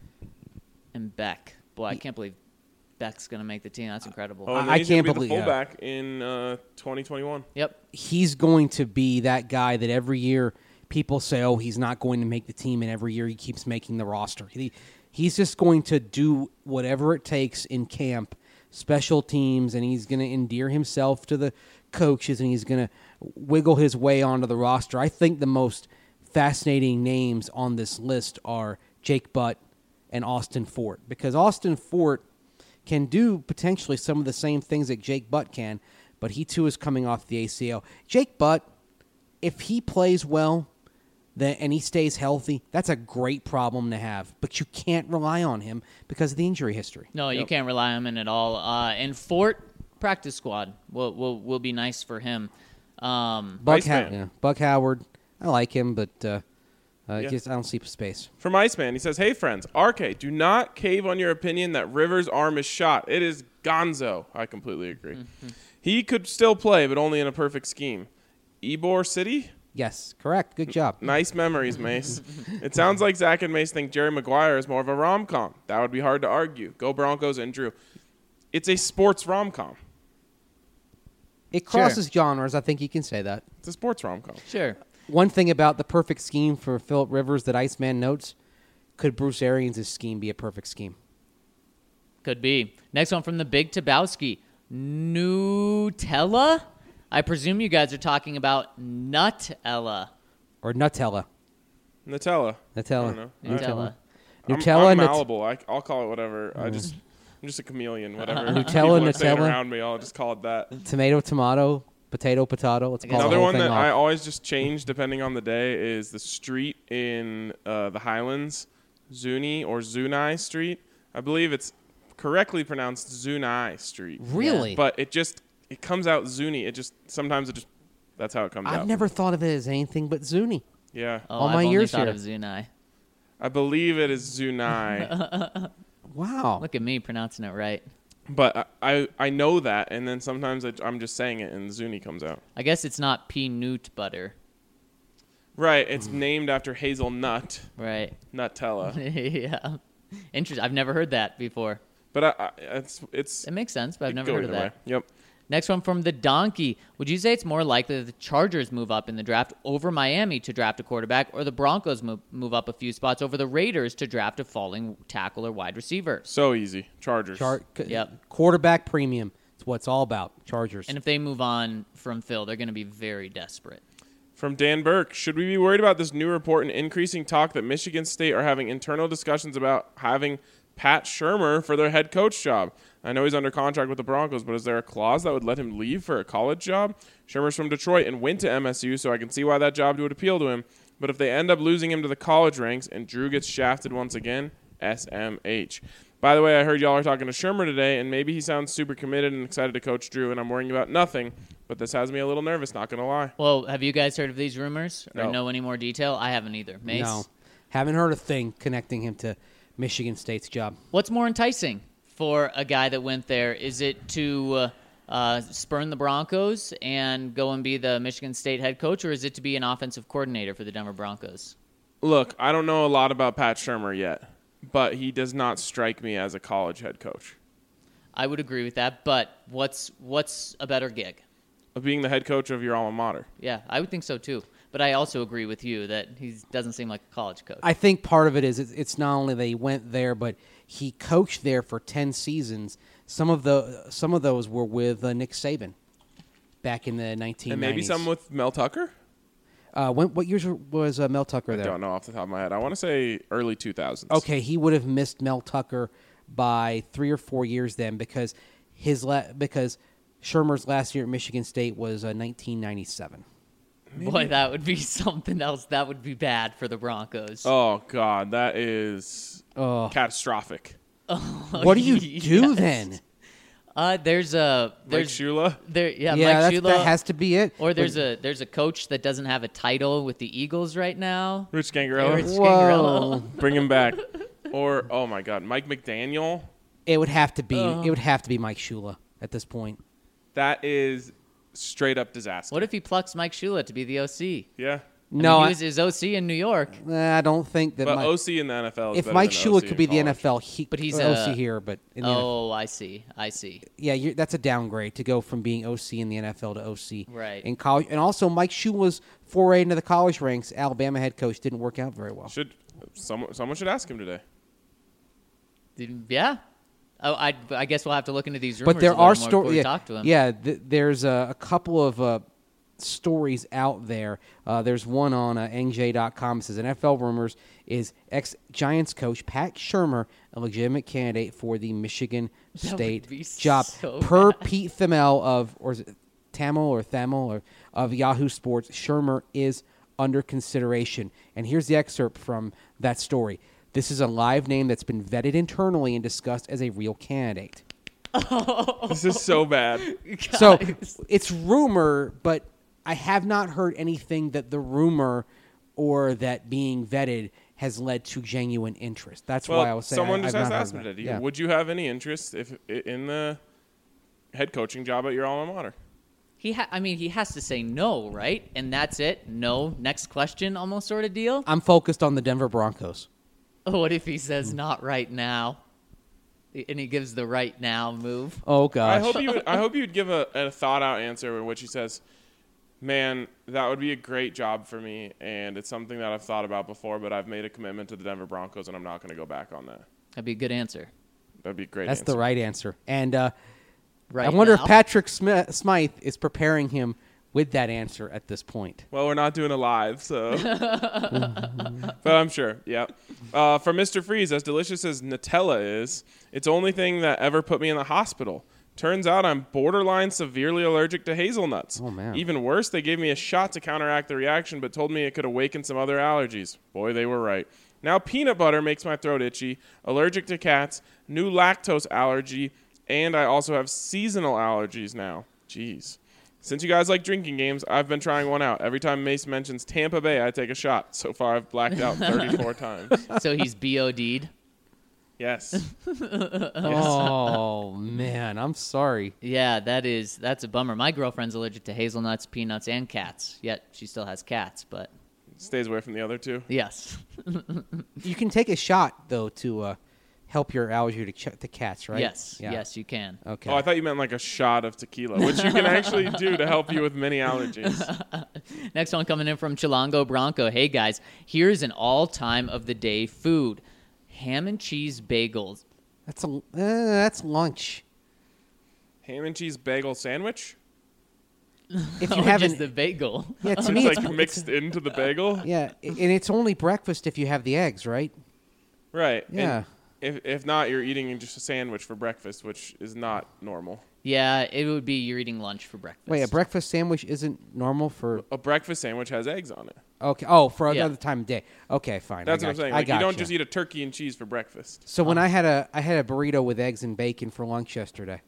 and Beck. Boy, I can't believe Beck's going to make the team. That's incredible. Oh, and I he's can't gonna be believe- the yeah. fullback in uh, twenty twenty-one. Yep. He's going to be that guy that every year people say, oh, he's not going to make the team, and every year he keeps making the roster. He, he's just going to do whatever it takes in camp, special teams, and he's going to endear himself to the coaches, and he's going to wiggle his way onto the roster. I think the most fascinating names on this list are Jake Butt and Austin Fort, because Austin Fort can do potentially some of the same things that Jake Butt can, but he too is coming off the A C L. Jake Butt, if he plays well then, and he stays healthy, that's a great problem to have, but you can't rely on him because of the injury history. No, you can't rely on him at all. Uh, and Fort, practice squad will will, will be nice for him. Um, Buck, How- Iceman. yeah, Buck Howard, I like him, but uh, uh, Yeah. just, I don't see space. From Iceman, he says, hey, friends, R K, do not cave on your opinion that Rivers' arm is shot. It is gonzo. I completely agree. Mm-hmm. He could still play, but only in a perfect scheme. Ybor City? Yes, correct. Good job. Nice memories, Mace. It sounds like Zach and Mace think Jerry Maguire is more of a rom-com. That would be hard to argue. Go Broncos and Drew. It's a sports rom-com. It crosses genres. I think you can say that. It's a sports rom-com. sure. One thing about the perfect scheme for Phillip Rivers that Iceman notes, could Bruce Arians' scheme be a perfect scheme? Could be. Next one from the Big Tabowski. Nutella? I presume you guys are talking about Nutella. Or Nutella? Nutella. Nutella. I don't know. Nutella. I'm, Nutella, I'm Nut- malleable. I, I'll call it whatever. I just I'm just a chameleon. Whatever. Nutella, people are saying Nutella. around me, I'll just call it that. Tomato, tomato, potato, potato. Let's I call guess- the Another whole one thing that off. I always just change depending on the day is the street in uh, the Highlands, Zuni or Zunai Street. I believe it's correctly pronounced Zunai Street. Really? But it just it comes out Zuni. It just sometimes it just that's how it comes out. I've never thought of it as anything but Zuni. Yeah, Oh, All I've my only years thought here. of Zunai. I believe it is Zunai, Wow. Look at me pronouncing it right. but I, I I know that, and then sometimes I, I'm just saying it and Zuni comes out. I guess it's not peanut butter. Right, it's named after hazelnut, Right. Nutella. yeah. Interesting. I've never heard that before. But I, I, it's it's It makes sense, but I've it never go heard of either that. way. Yep. Next one from the Donkey. Would you say it's more likely that the Chargers move up in the draft over Miami to draft a quarterback, or the Broncos move, move up a few spots over the Raiders to draft a falling tackle or wide receiver? So easy. Chargers. Char- Yep. Quarterback premium. It's what it's all about. Chargers. And if they move on from Phil, they're going to be very desperate. From Dan Burke, should we be worried about this new report and increasing talk that Michigan State are having internal discussions about having Pat Shurmur for their head coach job? I know he's under contract with the Broncos, but is there a clause that would let him leave for a college job? Shurmur's from Detroit and went to M S U, so I can see why that job would appeal to him. But if they end up losing him to the college ranks and Drew gets shafted once again, S M H. By the way, I heard y'all are talking to Shurmur today, and maybe he sounds super committed and excited to coach Drew, and I'm worrying about nothing, but this has me a little nervous, not going to lie. Well, have you guys heard of these rumors or No. know any more detail? I haven't either. Mace? No. Haven't heard a thing connecting him to Michigan State's job. What's more enticing for a guy that went there? Is it to uh, uh, spurn the Broncos and go and be the Michigan State head coach, or is it to be an offensive coordinator for the Denver Broncos? Look, I don't know a lot about Pat Shurmur yet, but he does not strike me as a college head coach. I would agree with that, but what's what's a better gig? Of being the head coach of your alma mater. Yeah, I would think so too. But I also agree with you that he doesn't seem like a college coach. I think part of it is it's, it's not only that he went there, but he coached there for ten seasons. Some of the some of those were with uh, Nick Saban back in the nineteen nineties. And maybe some with Mel Tucker? Uh, when, what years was uh, Mel Tucker I there? don't know off the top of my head. I want to say early two thousands. Okay, he would have missed Mel Tucker by three or four years then because his la- because Shurmur's last year at Michigan State was uh, nineteen ninety-seven. Boy, that would be something else. That would be bad for the Broncos. Oh, God. That is Oh. catastrophic. What do you do Yes. then? Uh, there's a Mike there's Shula? there yeah, Yeah, Mike that's, Shula. that has to be it. Or there's a there's a coach that doesn't have a title with the Eagles right now. Rich Gangarello? Rich Whoa. Gangarello. Bring him back. Or, oh, my God, Mike McDaniel? It would have to be. Oh. It would have to be Mike Shula at this point. That is straight up disaster. What if he plucks Mike Shula to be the O C? Yeah. I No, mean, I, he was his O C in New York. I don't think that. But Mike, O C in the N F L is if better Mike than Shula O C could in be the college. N F L, he, But he's or a- O C here, but in the N F L. Oh, I see. I see. Yeah, you're, that's a downgrade to go from being O C in the N F L to O C Right. in college. And also, Mike Shula's foray into the college ranks, Alabama head coach, didn't work out very well. Should someone someone should ask him today. Yeah. Oh, I, I guess we'll have to look into these rumors. But there a little are more before stories. we Yeah, talk to him. yeah th- there's a, a couple of uh, stories out there. Uh, there's one on uh, N J dot com. It says N F L rumors is ex-Giants coach Pat Shurmur a legitimate candidate for the Michigan That would State be job. so Per bad. Pete Thamel of, or is it Tamil or Thamel or of Yahoo Sports, Shurmur is under consideration. And here's the excerpt from that story. This is a live name that's been vetted internally and discussed as a real candidate. This is so bad. So Guys. it's rumor, but I have not heard anything that the rumor or that being vetted has led to genuine interest. That's Well, why I was saying someone I, just I've has to not ask heard him that. today. Yeah. Would you have any interest if in the head coaching job at your alma mater? He ha- I mean, he has to say no, right? And that's it. No. Next question, almost sort of deal. I'm focused on the Denver Broncos. What if he says not right now, and he gives the right now move? Oh gosh. I hope you. Would, I hope you'd give a, a thought out answer in which he says, "Man, that would be a great job for me, and it's something that I've thought about before, but I've made a commitment to the Denver Broncos, and I'm not going to go back on that." That'd be a good answer. That'd be a great. That's answer. the right answer. And uh, Right. I wonder now. if Patrick Smith, Smythe is preparing him with that answer at this point. Well, we're not doing a live, so. But I'm sure, yeah. Uh, for Mister Freeze, as delicious as Nutella is, it's the only thing that ever put me in the hospital. Turns out I'm borderline severely allergic to hazelnuts. Oh, man. Even worse, they gave me a shot to counteract the reaction, but told me it could awaken some other allergies. Boy, they were right. Now peanut butter makes my throat itchy, allergic to cats, new lactose allergy, and I also have seasonal allergies now. Jeez. Since you guys like drinking games, I've been trying one out. Every time Mace mentions Tampa Bay, I take a shot. So far, I've blacked out thirty-four times. So he's B O D'd. Yes. Oh, man. I'm sorry. Yeah, that is that's a bummer. My girlfriend's allergic to hazelnuts, peanuts, and cats. Yet she still has cats, but Stays away from the other two. yes. You can take a shot, though, to uh, help your allergy to, ch- to cats, right? Yes, Yeah. yes, you can. Okay. Oh, I thought you meant like a shot of tequila, which you can actually do to help you with many allergies. Next one coming in from Chilango Bronco. Hey guys, here's an all-time of the day food: ham and cheese bagels. That's a uh, that's lunch. Ham and cheese bagel sandwich? If you Or haven't, just the bagel. yeah, to It's me, like it's, mixed into the bagel? yeah, and it's only breakfast if you have the eggs, right? Right. Yeah. And if if not, you're eating just a sandwich for breakfast, which is not normal. Yeah, it would be you're eating lunch for breakfast. Wait, a breakfast sandwich isn't normal for A breakfast sandwich has eggs on it. okay. Oh, for Yeah. another time of day. Okay, fine. That's I what I'm got saying. I Like, you got don't just eat a turkey and cheese for breakfast. So when I had a I had a burrito with eggs and bacon for lunch yesterday,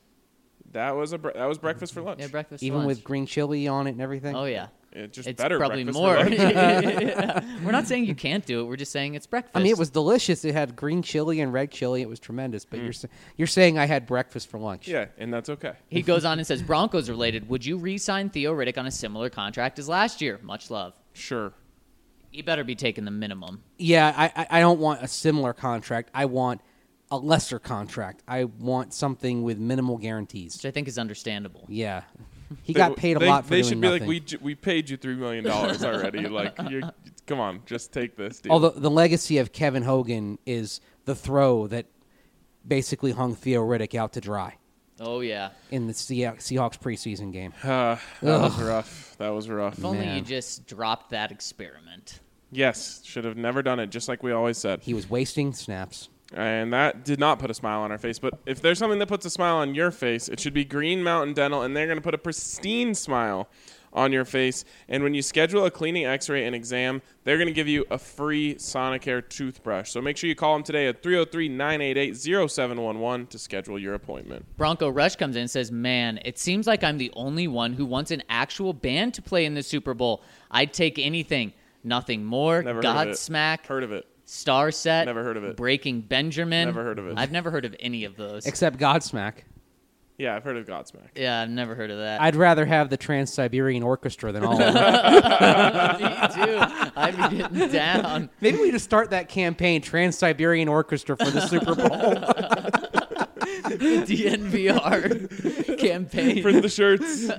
That was a bre- that was breakfast for lunch. Yeah, breakfast. even lunch. with green chili on it and everything. Oh yeah, It's just it's better probably breakfast more. for lunch. We're not saying you can't do it. We're just saying it's breakfast. I mean, it was delicious. It had green chili and red chili. It was tremendous. Mm. But you're sa- you're saying I had breakfast for lunch. Yeah, and that's okay. He goes on and says, Broncos related, would you re-sign Theo Riddick on a similar contract as last year? Much love. Sure. He better be taking the minimum. Yeah, I, I I don't want a similar contract. I want a lesser contract. I want something with minimal guarantees. Which I think is understandable. Yeah, he got paid a They- lot for They doing should be nothing. like, we j- we paid you three million dollars already. Like, you come on, just take this deal. Although the legacy of Kevin Hogan is the throw that basically hung Theo Riddick out to dry Oh, yeah. in the Seah- Seahawks preseason game. Uh, that was rough. That was rough. If only Man. you just dropped that experiment. Yes, should have never done it, just like we always said. He was wasting snaps. And that did not put a smile on our face. But if there's something that puts a smile on your face, it should be Green Mountain Dental, and they're going to put a pristine smile on your face. And when you schedule a cleaning, x-ray, and exam, they're going to give you a free Sonicare toothbrush. So make sure you call them today at three oh three, nine eight eight, oh seven one one to schedule your appointment. Bronco Rush comes in and says, man, it seems like I'm the only one who wants an actual band to play in the Super Bowl. I'd take anything. Nothing more. Never heard of it. Godsmack. Heard of it. Star Set. Never heard of it. Breaking Benjamin. Never heard of it. I've never heard of any of those. Except Godsmack. Yeah, I've heard of Godsmack. yeah, I've never heard of that. I'd rather have the Trans-Siberian Orchestra than all of them. Me too. I'd be getting down. Maybe we just start that campaign, Trans-Siberian Orchestra for the Super Bowl. D N V R campaign. Print the shirts.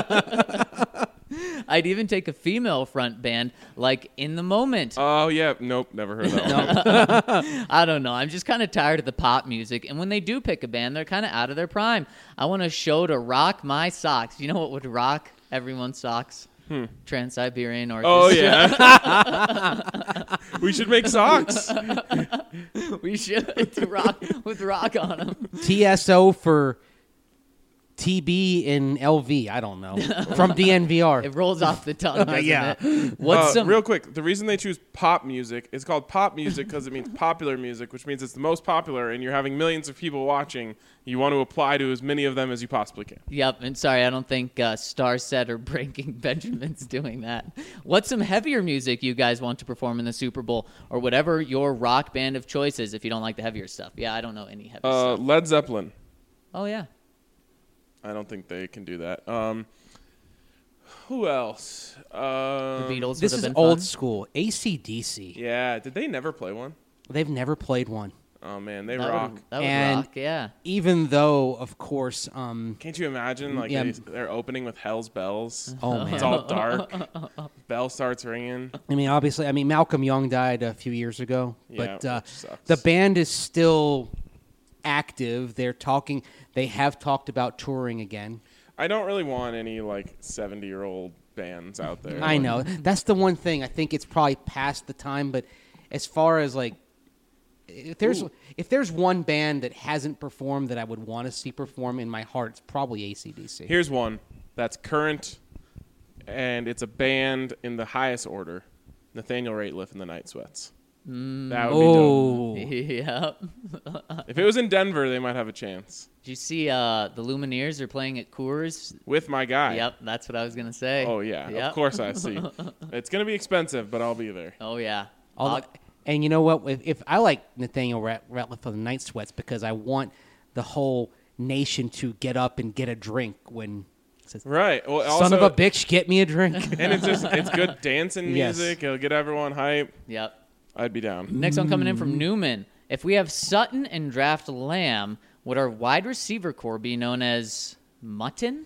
I'd even take a female front band, like In the Moment. Oh, yeah. Nope, never heard of that one. I don't know. I'm just kind of tired of the pop music. And when they do pick a band, they're kind of out of their prime. I want a show to rock my socks. You know what would rock everyone's socks? Hmm. Trans-Siberian Orchestra. Oh, yeah. We should make socks. We should to rock with rock on them. T S O for T B and L V. I don't know. From D N V R. It rolls off the tongue, doesn't Yeah. it? What's Uh, some Real quick, the reason they choose pop music is called pop music because it means popular music, which means it's the most popular, and you're having millions of people watching. You want to apply to as many of them as you possibly can. Yep, and sorry, I don't think uh, Star Set or Breaking Benjamin's doing that. What's some heavier music you guys want to perform in the Super Bowl, or whatever your rock band of choice is if you don't like the heavier stuff? Yeah, I don't know any heavy Uh, stuff. Led Zeppelin. Oh, yeah. I don't think they can do that. Um, who else? The Um, Beatles This would is have been old fun. school. A C D C. Yeah, did they never play one? They've never played one. Oh man, they That rock. would, that would And- rock, yeah. Even though, of course, um, Can't you imagine? Like Yeah. they, they're opening with Hell's Bells. oh man. It's all dark. Bell starts ringing. I mean, obviously, I mean, Malcolm Young died a few years ago, Yeah, but uh, which sucks. the band is still active. They're talking. They have talked about touring again. I don't really want any like seventy-year-old bands out there. I know. That's the one thing. I think it's probably past the time, but as far as like if there's Ooh. if there's one band that hasn't performed that I would want to see perform in my heart, it's probably A C D C. Here's one that's current, and it's a band in the highest order. Nathaniel Rateliff and the Night Sweats. Mm. That would be dope. Oh, Yep. If it was in Denver, they might have a chance. Did you see uh, the Lumineers are playing at Coors? With my guy. Yep, that's what I was gonna say. Oh, yeah. Yep. Of course I see. It's going to be expensive, but I'll be there. Oh yeah. All I'll- the- and you know what? If, if I like Nathaniel Rat- Ratliff of the Night Sweats because I want the whole nation to get up and get a drink when it says, Right. Well, "Son also, of a bitch, get me a drink." And it's just it's good dancing Yes. music. It'll get everyone hype. Yep. I'd be down. Next one coming in Mm. from Newman. If we have Sutton and draft Lamb, would our wide receiver core be known as Mutton?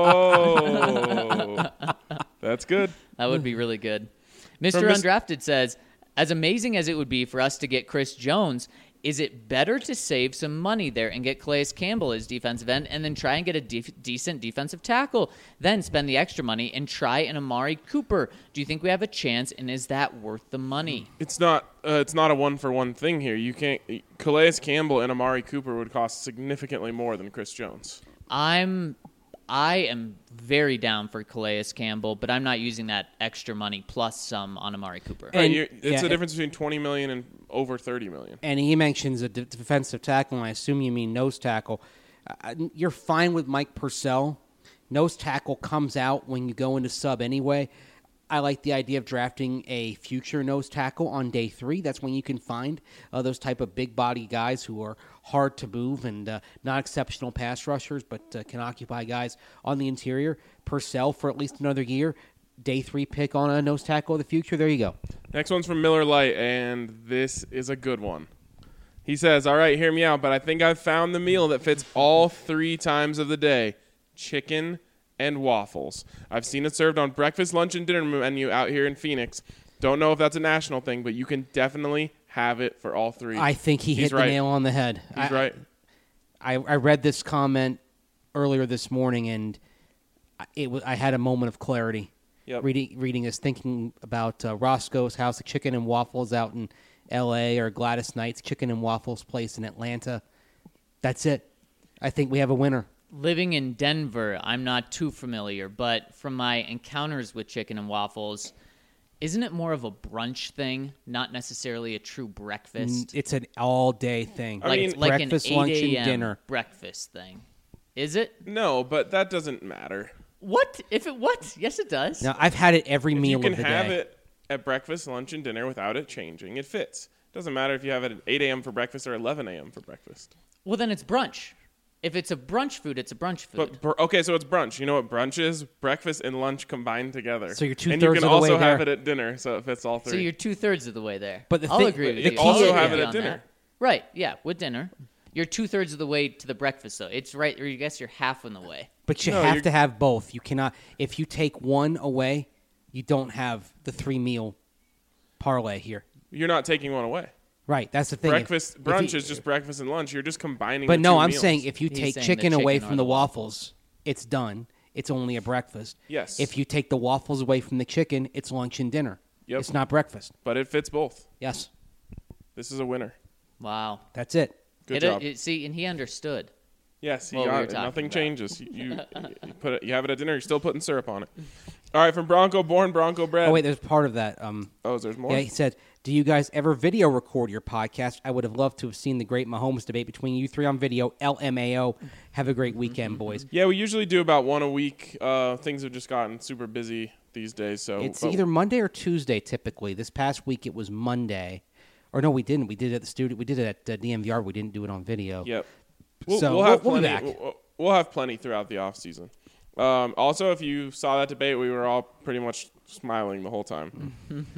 Oh, that's good. That would be really good. Mister From Mis- Undrafted says, as amazing as it would be for us to get Chris Jones, is it better to save some money there and get Calais Campbell as defensive end and then try and get a def- decent defensive tackle, then spend the extra money and try an Amari Cooper? Do you think we have a chance, and is that worth the money? It's not. Uh, it's not a one for one thing here. You can't. Calais Campbell and Amari Cooper would cost significantly more than Chris Jones. I'm I am very down for Calais Campbell, but I'm not using that extra money plus some on Amari Cooper. Right, And- you're, it's yeah, the it- difference between twenty million and over thirty million. And he mentions a de- defensive tackle, and I assume you mean nose tackle. Uh, you're fine with Mike Purcell. Nose tackle comes out when you go into sub anyway. I like the idea of drafting a future nose tackle on day three. That's when you can find uh, those type of big body guys who are hard to move and uh, not exceptional pass rushers, but uh, can occupy guys on the interior. Purcell for at least another year. Day three pick on a nose tackle of the future. There you go. Next one's from Miller Lite, and this is a good one. He says, all right, hear me out, but I think I've found the meal that fits all three times of the day. Chicken and waffles. I've seen it served on breakfast, lunch, and dinner menu out here in Phoenix. Don't know if that's a national thing, but you can definitely have it for all three. I think he He's hit right. the nail on the head. He's I, right. I, I read this comment earlier this morning, and I- it was, I had a moment of clarity. Yep. Reading, reading is thinking about uh, Roscoe's House of Chicken and Waffles out in L A or Gladys Knight's Chicken and Waffles place in Atlanta. That's it. I think we have a winner. Living in Denver, I'm not too familiar, but from my encounters with chicken and waffles, isn't it more of a brunch thing, not necessarily a true breakfast? It's an all-day thing. I like mean- like breakfast, an lunch, eight and a.m. dinner. breakfast thing. Is it? No, but that doesn't matter. What? If it what? Yes, it does. Now, I've had it every If meal you can of the have day. it at breakfast, lunch, and dinner without it changing. It fits. Doesn't matter if you have it at eight a.m. for breakfast or eleven a.m. for breakfast. Well, then it's brunch. If it's a brunch food, it's a brunch food. But br- okay, so it's brunch. You know what brunch is? Breakfast and lunch combined together. So you're And you two-thirds can of the also way have there. it at dinner, so it fits all three. so you're two thirds of the way there. But the I'll thing- agree with the you. key I'll is- agree have with it you at on dinner. that. Right? Yeah, with dinner. You're two thirds of the way to the breakfast, though. It's right, or I guess you're half in the way. But you No, have you're- to have both. You cannot. If you take one away, you don't have the three-meal parlay here. You're not taking one away. Right. That's the thing. If- Breakfast, if brunch you- is just breakfast and lunch. You're just combining. But the no, two I'm meals. saying if you He's take saying the chicken away chicken or from the the waffles, it's done. It's only a breakfast. Yes. If you take the waffles away from the chicken, it's lunch and dinner. Yep. It's not breakfast. But it fits both. Yes. This is a winner. Wow. That's it. Good It- job. it- see, and he understood. Yes, you what we got were it. talking Nothing about. changes. You, you, you put it. You have it at dinner. You're still putting syrup on it. All right, from Bronco Born, Bronco Bread. Oh, wait, there's part of that. Um, Oh, there's more. yeah, he said, do you guys ever video record your podcast? I would have loved to have seen the great Mahomes debate between you three on video. L M A O. Have a great weekend, boys. Yeah, we usually do about one a week. Uh, things have just gotten super busy these days, so It's but- either Monday or Tuesday typically. This past week it was Monday. Or no, we didn't. We did it at the studio. We did it at uh, D M V R. We didn't do it on video. Yep. We'll, So, we'll have we'll- we'll be plenty. back. We'll, we'll have plenty throughout the off season. Um, also, if you saw that debate, we were all pretty much smiling the whole time.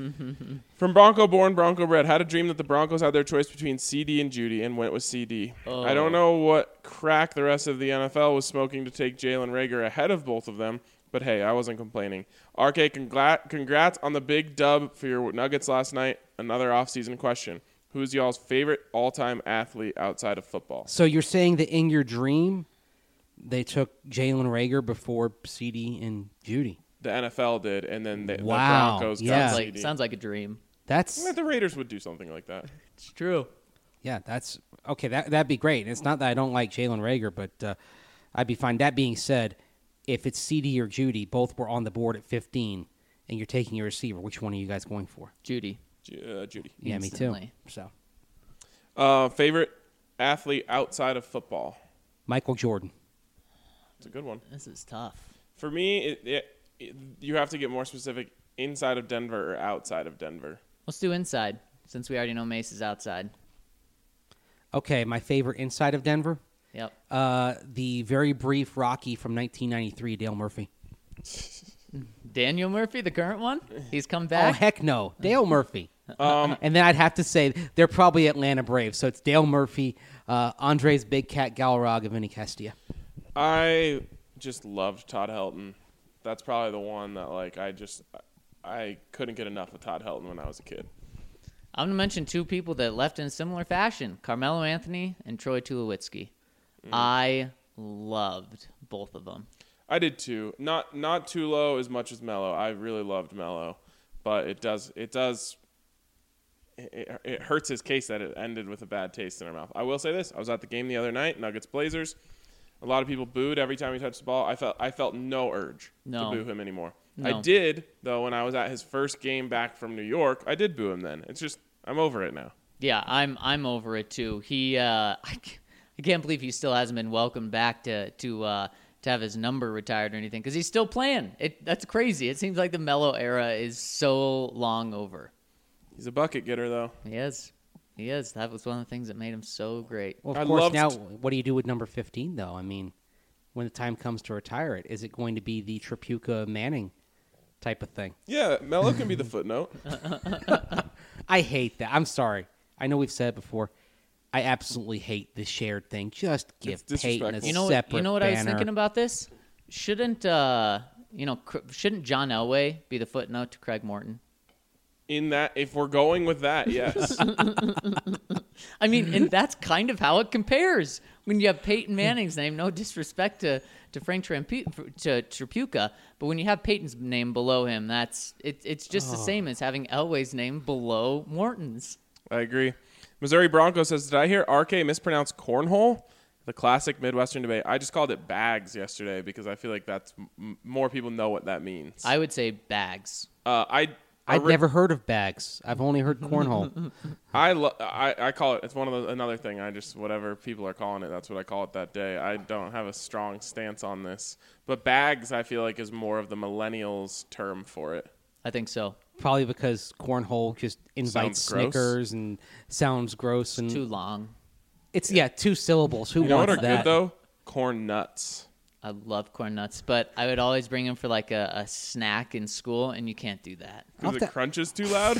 From Bronco Born, Bronco Bred, had a dream that the Broncos had their choice between C D and Judy and went with C D. Oh. I don't know what crack the rest of the N F L was smoking to take Jalen Rager ahead of both of them, but hey, I wasn't complaining. R K, congrat- congrats on the big dub for your Nuggets last night. Another offseason question. Who's y'all's favorite all-time athlete outside of football? So you're saying that in your dream, They took Jalen Reagor before C D and Judy. The N F L did, and then they, Wow, the Broncos yeah. got Sounds C like D. sounds like a dream. That's Yeah, the Raiders would do something like that. It's true. yeah, that's okay. That that'd be great. And it's not that I don't like Jalen Reagor, but uh, I'd be fine. That being said, if it's C D or Judy, both were on the board at fifteen, and you're taking a receiver, which one are you guys going for? Judy. Ju- uh, Judy. Yeah, me Instantly. too. So Uh, favorite athlete outside of football? Michael Jordan. It's a good one. This is tough. For me, it, it, it, you have to get more specific. Inside of Denver or outside of Denver? Let's do inside, since we already know Mace is outside. Okay, my favorite inside of Denver, Yep. uh, the very brief Rocky from nineteen ninety-three, Dale Murphy. Daniel Murphy, the current one, he's come Oh back. heck no, Dale Murphy. Um, And then I'd have to say they're probably Atlanta Braves, so it's Dale Murphy, uh, Andres Big Cat Galarraga, Vinny Castilla. I just loved Todd Helton. That's probably the one that like I just I couldn't get enough of Todd Helton when I was a kid. I'm gonna mention two people that left in similar fashion: Carmelo Anthony and Troy Tulowitzki. Mm. I loved both of them. I did too. Not not too low as much as Melo. I really loved Melo, but it does it does it, it hurts his case that it ended with a bad taste in our mouth. I will say this: I was at the game the other night, Nuggets Blazers. A lot of people booed every time he touched the ball. I felt I felt no urge No. to boo him anymore. No. I did though when I was at his first game back from New York. I did boo him then. It's just I'm over it now. Yeah, I'm I'm over it too. He, uh, I, c- I can't believe he still hasn't been welcomed back to to uh, to have his number retired or anything because he's still playing. It that's crazy. It seems like the Melo era is so long over. He's a bucket getter though. He is, he is. That was one of the things that made him so great. Well, of I course, loved- now what do you do with number fifteen, though? I mean, when the time comes to retire it, is it going to be the Tripucka Manning type of thing? Yeah, Melo can be the footnote. I hate that. I'm sorry. I know we've said it before. I absolutely hate this shared thing. Just give It's Peyton a disrespectful. You know, separate what, you know what I was banner. thinking about this? Shouldn't uh, you know, cr- shouldn't John Elway be the footnote to Craig Morton? In that, if we're going with that, yes. I mean, and that's kind of how it compares when you have Peyton Manning's name. No disrespect to, to Frank Trampu- to Tripucka, but when you have Peyton's name below him, that's it, it's just the same as having Elway's name below Morton's. I agree. Missouri Broncos says, did I hear R K mispronounce cornhole? The classic Midwestern debate. I just called it bags yesterday because I feel like that's m- more people know what that means. I would say bags. uh, I I'd ori- never heard of bags. I've only heard cornhole. I, lo- I I call it. It's one of the, another thing. I just whatever people are calling it. That's what I call it that day. I don't have a strong stance on this, but bags I feel like is more of the millennials term for it. I think so. Probably because cornhole just invites Sounds gross. Snickers and sounds gross. And Too long. it's, yeah, two syllables. Who You know what wants are that? good though? Corn nuts. I love corn nuts, but I would always bring them for like a, a snack in school, and you can't do that. Because I'll it ta- crunches too loud.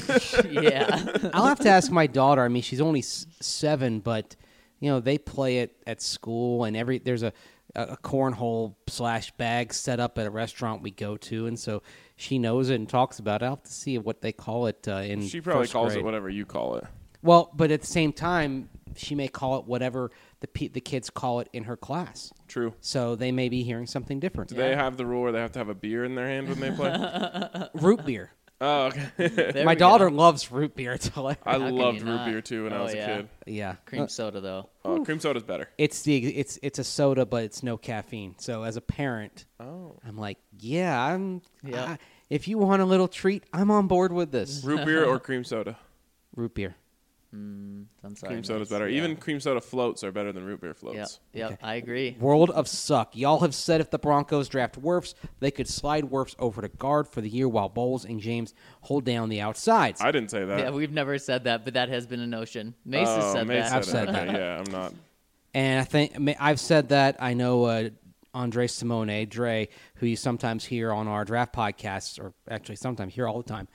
Yeah. I'll have to ask my daughter. I mean, she's only s- seven, but you know they play it at school, and every there's a a cornhole slash bag set up at a restaurant we go to, and so she knows it and talks about it. I'll have to see what they call it uh, in. She probably first calls grade. it whatever you call it. Well, but at the same time, she may call it whatever the pe- the kids call it in her class. True. So they may be hearing something different. Do they have the rule where they have to have a beer in their hand when they play? Root beer. Oh, okay. There My we go. daughter loves root beer. It's hilarious. I can loved you root not? beer too when I Oh, was a yeah. kid. Yeah. Cream soda, though. Oh, cream soda's better. It's the it's it's a soda, but it's no caffeine. So as a parent, Oh. I'm like, yeah, I'm. Yeah. I- if you want a little treat, I'm on board with this. Root beer or cream soda? Root beer. Mm, I'm sorry. Cream soda's Mace. better. Yeah. Even cream soda floats are better than root beer Yep, floats. yep, Okay. I agree. World of suck. Y'all have said if the Broncos draft Wirfs, they could slide Wirfs over to guard for the year while Bowles and James hold down the outsides. I didn't say that. Yeah, we've never said that, but that has been a notion. Mace has Oh, said Mace that. I've said okay, that. Yeah, I'm not. And I think ma- I've said that. I know uh, Andre Simone, Dre, who you sometimes hear on our draft podcasts, or actually sometimes hear all the time.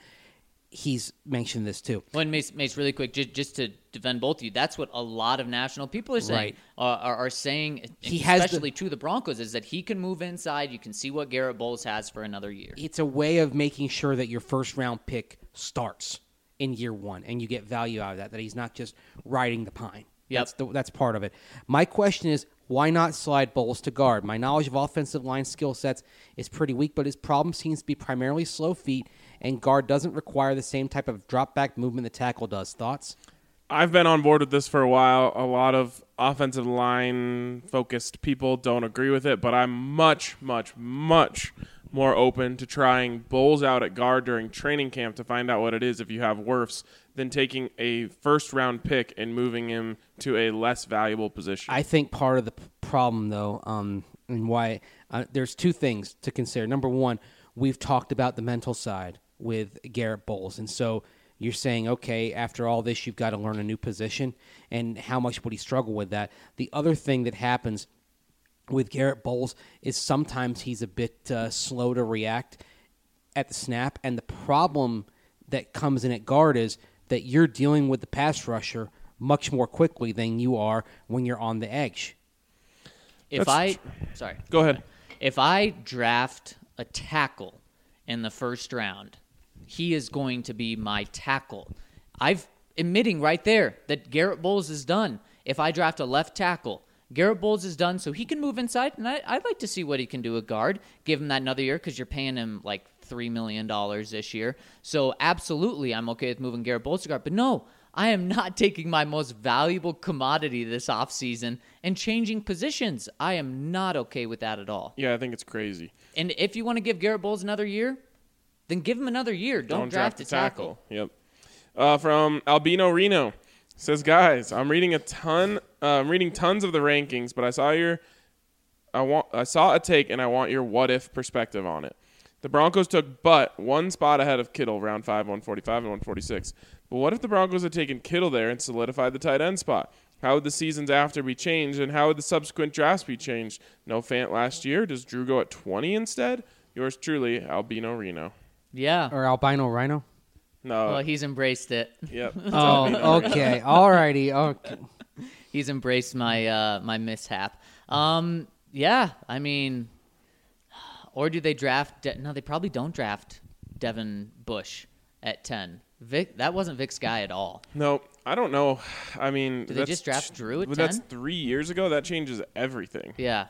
He's mentioned this too. Well, and Mace, Mace, really quick, just, just to defend both of you, that's what a lot of national people are saying. Right. Uh, are, are saying, He has the- especially to the Broncos, is that he can move inside. You can see what Garrett Bowles has for another year. It's a way of making sure that your first round pick starts in year one, and you get value out of that. That he's not just riding the pine. Yep. That's the, that's part of it. My question is, why not slide Bowles to guard? My knowledge of offensive line skill sets is pretty weak, but his problem seems to be primarily slow feet, and guard doesn't require the same type of drop back movement the tackle does. Thoughts? I've been on board with this for a while. A lot of offensive line focused people don't agree with it, but I'm much, much, much more open to trying Bowles out at guard during training camp to find out what it is if you have Wirfs than taking a first round pick and moving him to a less valuable position. I think part of the p- problem, though, um, and why uh, there's two things to consider. Number one, we've talked about the mental side with Garrett Bowles, and so you're saying, okay, after all this, you've got to learn a new position, and how much would he struggle with that? The other thing that happens with Garrett Bowles is sometimes he's a bit uh, slow to react at the snap, and the problem that comes in at guard is that you're dealing with the pass rusher much more quickly than you are when you're on the edge. If That's I, tr- sorry. Go ahead. If I draft a tackle in the first round, he is going to be my tackle. I've admitting right there that Garrett Bowles is done. If I draft a left tackle, Garrett Bowles is done, so he can move inside, and I, I'd like to see what he can do at guard. Give him that another year because you're paying him like three million dollars this year. So absolutely, I'm okay with moving Garrett Bowles to guard. But no, I am not taking my most valuable commodity this offseason and changing positions. I am not okay with that at all. Yeah, I think it's crazy. And if you want to give Garrett Bowles another year, then give him another year. Don't, draft, a tackle. Yep. Uh, from Albino Reno says, guys, I'm reading a ton. Uh, I'm reading tons of the rankings, but I saw your, I want, I saw a take, and I want your what if perspective on it. The Broncos took but one spot ahead of Kittle, round five, one forty-five and one forty-six. But what if the Broncos had taken Kittle there and solidified the tight end spot? How would the seasons after be changed, and how would the subsequent drafts be changed? No Fant last year. Does Drew go at twenty instead? Yours truly, Albino Reno. Yeah. Or albino rhino? No. Well, he's embraced it. Yep. Oh, okay. All righty. Okay. He's embraced my uh, my mishap. Um, yeah, I mean, or do they draft? De- no, they probably don't draft Devin Bush at ten. Vic, that wasn't Vic's guy at all. No, I don't know. I mean, Did they that's- just draft Drew at but That's ten? three years ago. That changes everything. Yeah.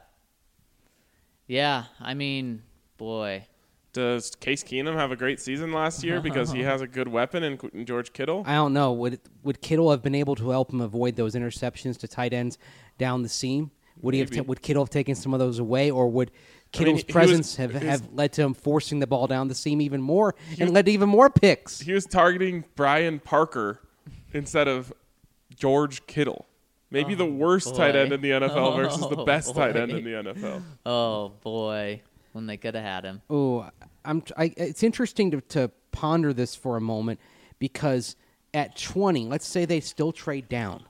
Yeah, I mean, boy. Does Case Keenum have a great season last year because he has a good weapon in, in George Kittle? I don't know. Would would Kittle have been able to help him avoid those interceptions to tight ends down the seam? Would he have? Maybe. T- would Kittle have taken some of those away, or would Kittle's he- he presence was- have, he was- have led to him forcing the ball down the seam even more and led to even more picks? He was targeting Brian Parker instead of George Kittle. Maybe the worst tight boy. end in the N F L versus the Oh, best tight end boy. in the N F L. Oh, boy. When they could have had him. Oh, I'm. I, it's interesting to, to ponder this for a moment because at twenty, let's say they still trade down.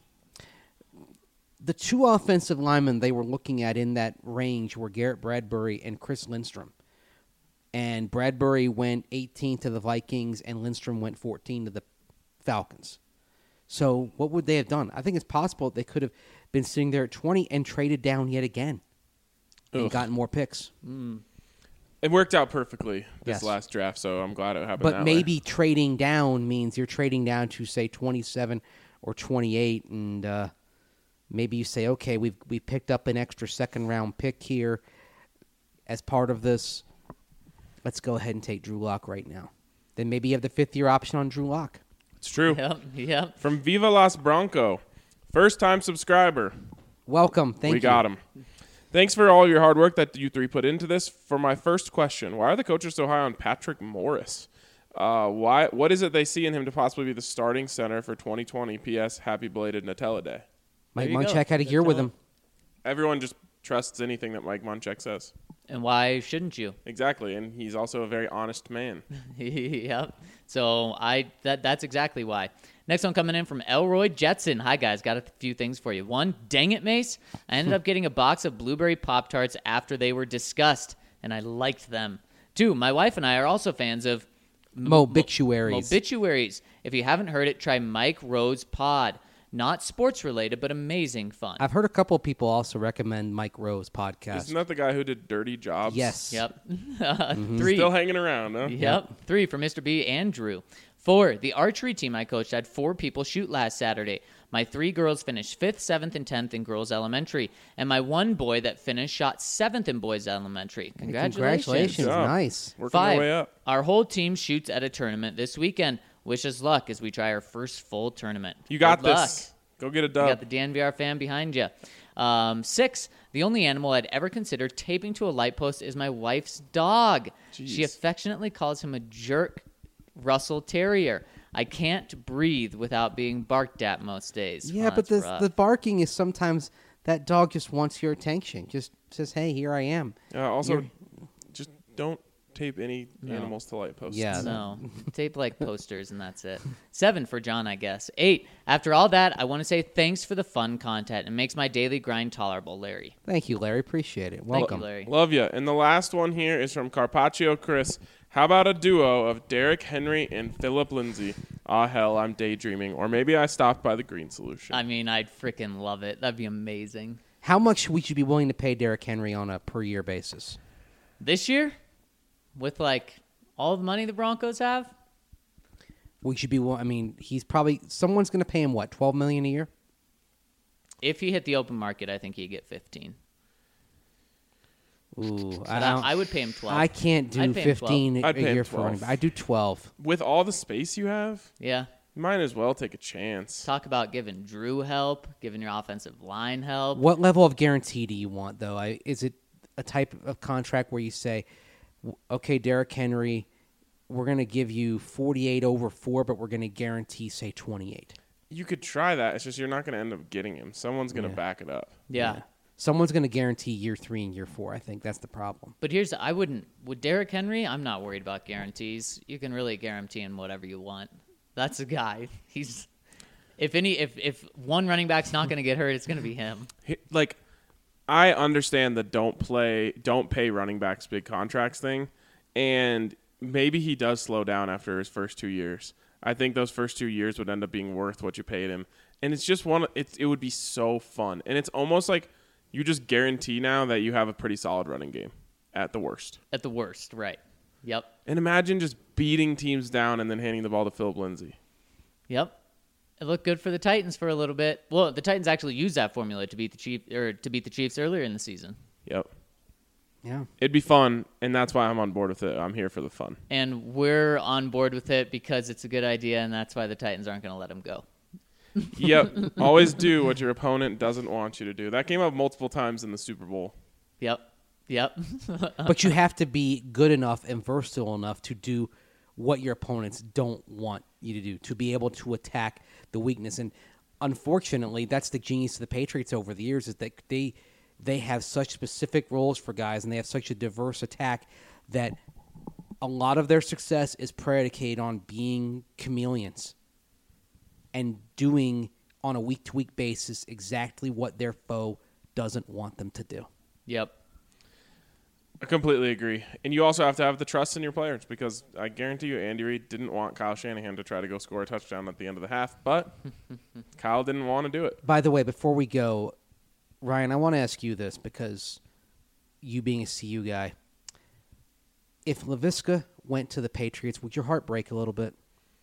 The two offensive linemen they were looking at in that range were Garrett Bradbury and Chris Lindstrom. And Bradbury went eighteen to the Vikings, and Lindstrom went fourteen to the Falcons. So what would they have done? I think it's possible they could have been sitting there at twenty and traded down yet again and Ugh. gotten more picks. It worked out perfectly this Yes. last draft, so I'm glad it happened But that maybe way. trading down means you're trading down to say twenty-seven or twenty-eight, and uh, maybe you say, okay, we've we picked up an extra second round pick here as part of this. Let's go ahead and take Drew Lock right now. Then maybe you have the fifth year option on Drew Lock. It's true. Yep, yep. From Viva Las Bronco, first time subscriber. Welcome, thank we you. got him. Thanks for all your hard work that you three put into this. For my first question, why are the coaches so high on Patrick Morris? Uh, why? What is it they see in him to possibly be the starting center for twenty twenty? P S. Happy belated Nutella Day. Mike There you go. Munchak had a Good year with job. him. Everyone just trusts anything that Mike Munchak says. And why shouldn't you? Exactly, and he's also a very honest man. Yep. So I that that's exactly why. Next one coming in from Elroy Jetson. Hi guys, got a few things for you. One, dang it, Mace. I ended up getting a box of blueberry Pop-Tarts after they were discussed, and I liked them. Two, my wife and I are also fans of Mobituaries. Mobituaries. If you haven't heard it, try Mike Rose Pod. Not sports related, but amazing fun. I've heard a couple of people also recommend Mike Rose podcast. Isn't that the guy who did Dirty Jobs? Yes. Yep. Three. Still hanging around, huh? Yep. Three for Mister B and Drew. Four, the archery team I coached had four people shoot last Saturday. My three girls finished fifth, seventh, and tenth in girls elementary, and my one boy that finished shot seventh in boys elementary. Congratulations! Congratulations, Good job. nice. Working Five. their way up. Our whole team shoots at a tournament this weekend. Wish us luck as we try our first full tournament. You got Good this. Go get a luck. dub. You got the D N V R fan behind you. Um, six, the only animal I'd ever considered taping to a light post is my wife's dog. She Jeez. affectionately calls him a jerk Russell Terrier. I can't breathe without being barked at most days. Yeah, Oh, but that's the rough. the barking is sometimes that dog just wants your attention. Just says, "Hey, here I am." Uh, also, You're- just don't tape any animals to light posts. Yeah. No, tape like posters and that's it. Seven for John, I guess. Eight, after all that, I want to say thanks for the fun content. It makes my daily grind tolerable, Larry. Thank you, Larry. Appreciate it. Thank Welcome. you, Larry. Love you. And the last one here is from Carpaccio Chris. How about a duo of Derek Henry and Philip Lindsay? Ah, hell, I'm daydreaming. Or maybe I stopped by the Green Solution. I mean, I'd freaking love it. That'd be amazing. How much would you be willing to pay Derrick Henry on a per year basis? This year, with like all the money the Broncos have, We should be. will- I mean, he's probably someone's going to pay him what twelve million a year. if he hit the open market, I think he'd get fifteen. Ooh, But I, I, don't- I would pay him twelve. I can't do I'd pay him fifteen a I'd pay him year for twelve. running back. I do twelve. With all the space you have, Yeah. you might as well take a chance. Talk about giving Drew help, giving your offensive line help. What level of guarantee do you want, though? I, is it a type of contract where you say, w- okay, Derrick Henry, we're going to give you forty-eight over four, but we're going to guarantee, say, twenty-eight? You could try that. It's just you're not going to end up getting him. Someone's going to Yeah. back it up. Yeah. Someone's going to guarantee year three and year four. I think that's the problem. But here's I wouldn't with Derrick Henry. I'm not worried about guarantees. You can really guarantee him whatever you want. That's a guy. He's if any if if one running back's not going to get hurt, it's going to be him. He- Like, I understand the don't play, don't pay running backs big contracts thing, and maybe he does slow down after his first two years. I think those first two years would end up being worth what you paid him, and it's just one. It's it would be so fun, and it's almost like you just guarantee now that you have a pretty solid running game at the worst. At the worst, right? Yep. And imagine just beating teams down and then handing the ball to Philip Lindsay. Yep. It looked good for the Titans for a little bit. Well, the Titans actually used that formula to beat the Chiefs or to beat the Chiefs earlier in the season. Yep. Yeah. It'd be fun, and that's why I'm on board with it. I'm here for the fun. And we're on board with it because it's a good idea, and that's why the Titans aren't going to let him go. Yep. Always do what your opponent doesn't want you to do. That came up multiple times in the Super Bowl. Yep. Yep. But you have to be good enough and versatile enough to do what your opponents don't want you to do, to be able to attack the weakness. And unfortunately, that's the genius of the Patriots over the years, is that they they have such specific roles for guys, and they have such a diverse attack that a lot of their success is predicated on being chameleons and doing on a week-to-week basis exactly what their foe doesn't want them to do. Yep. I completely agree. And you also have to have the trust in your players, because I guarantee you Andy Reid didn't want Kyle Shanahan to try to go score a touchdown at the end of the half, but Kyle didn't want to do it. By the way, before we go, Ryan, I want to ask you this, because you being a C U guy, if LaVisca went to the Patriots, would your heart break a little bit?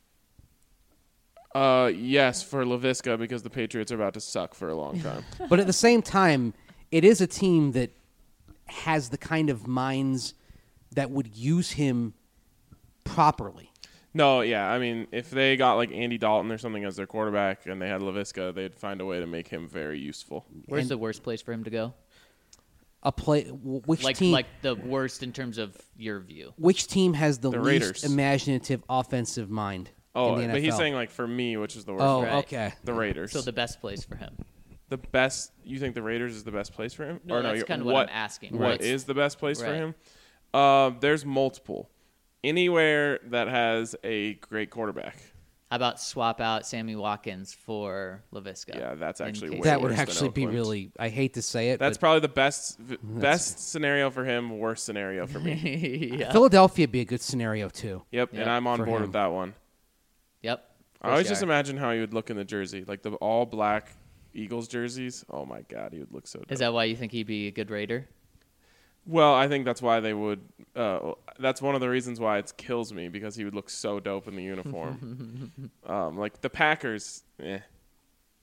Uh, yes, for LaVisca, because the Patriots are about to suck for a long time. But at the same time, it is a team that has the kind of minds that would use him properly. No, yeah, I mean, if they got like Andy Dalton or something as their quarterback and they had LaVisca, they'd find a way to make him very useful. Where's And- the worst place for him to go? A play, which Like team? like the worst in terms of your view. which team has the, The least Raiders. imaginative offensive mind? Oh, in the but he's N F L? saying like for me, which is the worst. Oh, for Right. okay. the Raiders. So the best place for him. The best. You think the Raiders is the best place for him? No, or that's you're- kind of what I'm asking. What Right. is the best place for Right. him? Uh, there's multiple. Anywhere that has a great quarterback. How about swap out Sammy Watkins for LaVisca? Yeah, that's in actually case- way That would worse than actually be Oakland. really. I hate to say it. That's but probably the best v- best scenario for him. Worst scenario for me. yeah. Philadelphia would be a good scenario too. Yep, Yep. and I'm on For board him. with that one. Yep. I always For just sure. imagine how he would look in the jersey, like the all black Eagles jerseys. Oh my God, he would look so. Dope. Is that why you think he'd be a good Raider? Well, I think that's why they would. Uh, that's one of the reasons why it kills me, because he would look so dope in the uniform. um, like the Packers, eh.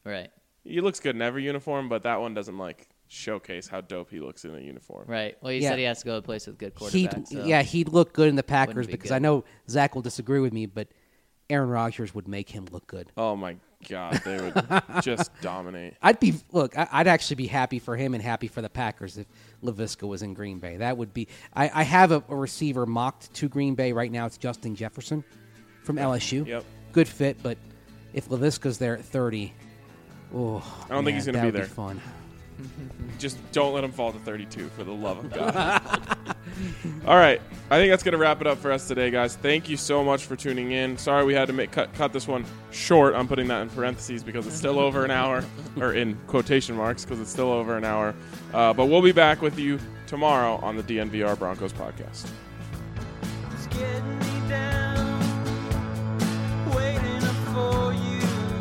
Right. He looks good in every uniform, but that one doesn't like showcase how dope he looks in a uniform. Right. Well, he Yeah. said he has to go to a place with good He'd, quarterbacks. So. Yeah, he'd look good in the Packers be because good. I know Zach will disagree with me, but Aaron Rodgers would make him look good. Oh my God, they would just dominate. I'd be look. I- I'd actually be happy for him and happy for the Packers if LaVisca was in Green Bay. That would be. I, I have a, a receiver mocked to Green Bay right now. It's Justin Jefferson from L S U. Yep. Good fit, but if LaVisca's there at thirty, oh, I don't think he's gonna that be would there. Be fun. Just don't let him fall to thirty-two, for the love of God. All right. I think that's going to wrap it up for us today, guys. Thank you so much for tuning in. Sorry we had to make cut, cut this one short. I'm putting that in parentheses because it's still over an hour, or in quotation marks because it's still over an hour. Uh, but we'll be back with you tomorrow on the D N V R Broncos podcast. It's getting me down, waiting up for you.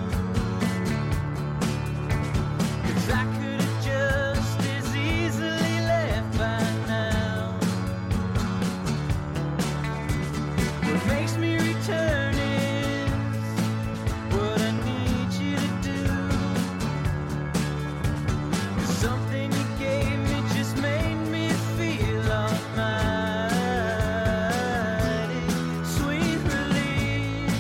'Cause I could have just as easily left by now. What makes me return is what I need you to do. 'Cause something you gave me just made me feel almighty. Sweet release.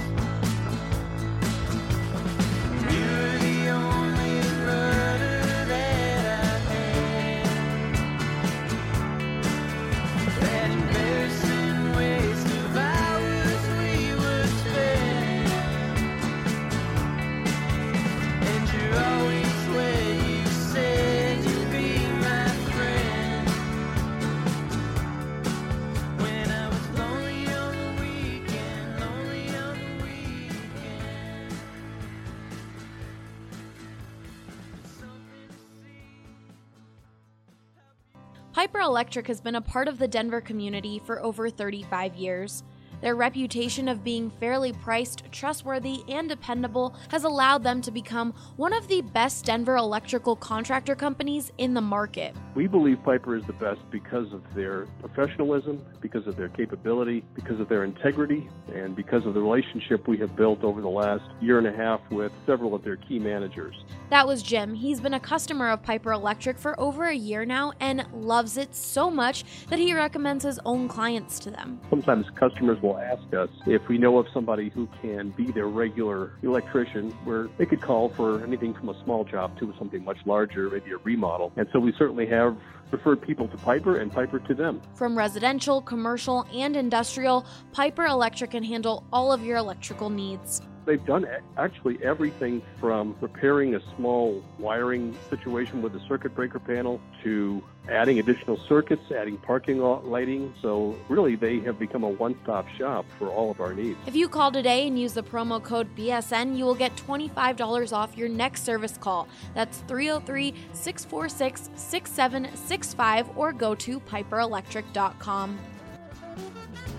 You're the only brother that I had. That embarrassing waste of hours we would spend. And you're always where you said you'd be my friend. When I was lonely on the weekend, lonely on the weekend. Something to see. Piper Electric has been a part of the Denver community for over thirty-five years. Their reputation of being fairly priced, trustworthy, and dependable has allowed them to become one of the best Denver electrical contractor companies in the market. We believe Piper is the best because of their professionalism, because of their capability, because of their integrity, and because of the relationship we have built over the last year and a half with several of their key managers. That was Jim. He's been a customer of Piper Electric for over a year now and loves it so much that he recommends his own clients to them. Sometimes customers will ask us if we know of somebody who can be their regular electrician, where they could call for anything from a small job to something much larger, maybe a remodel. And so we certainly have referred people to Piper and Piper to them. From residential, commercial, and industrial, Piper Electric can handle all of your electrical needs. They've done a- actually everything from repairing a small wiring situation with a circuit breaker panel to adding additional circuits, adding parking lot lighting. So really they have become a one-stop shop for all of our needs. If you call today and use the promo code B S N, you will get twenty-five dollars off your next service call. That's three oh three, six four six, six seven six five or go to piper electric dot com.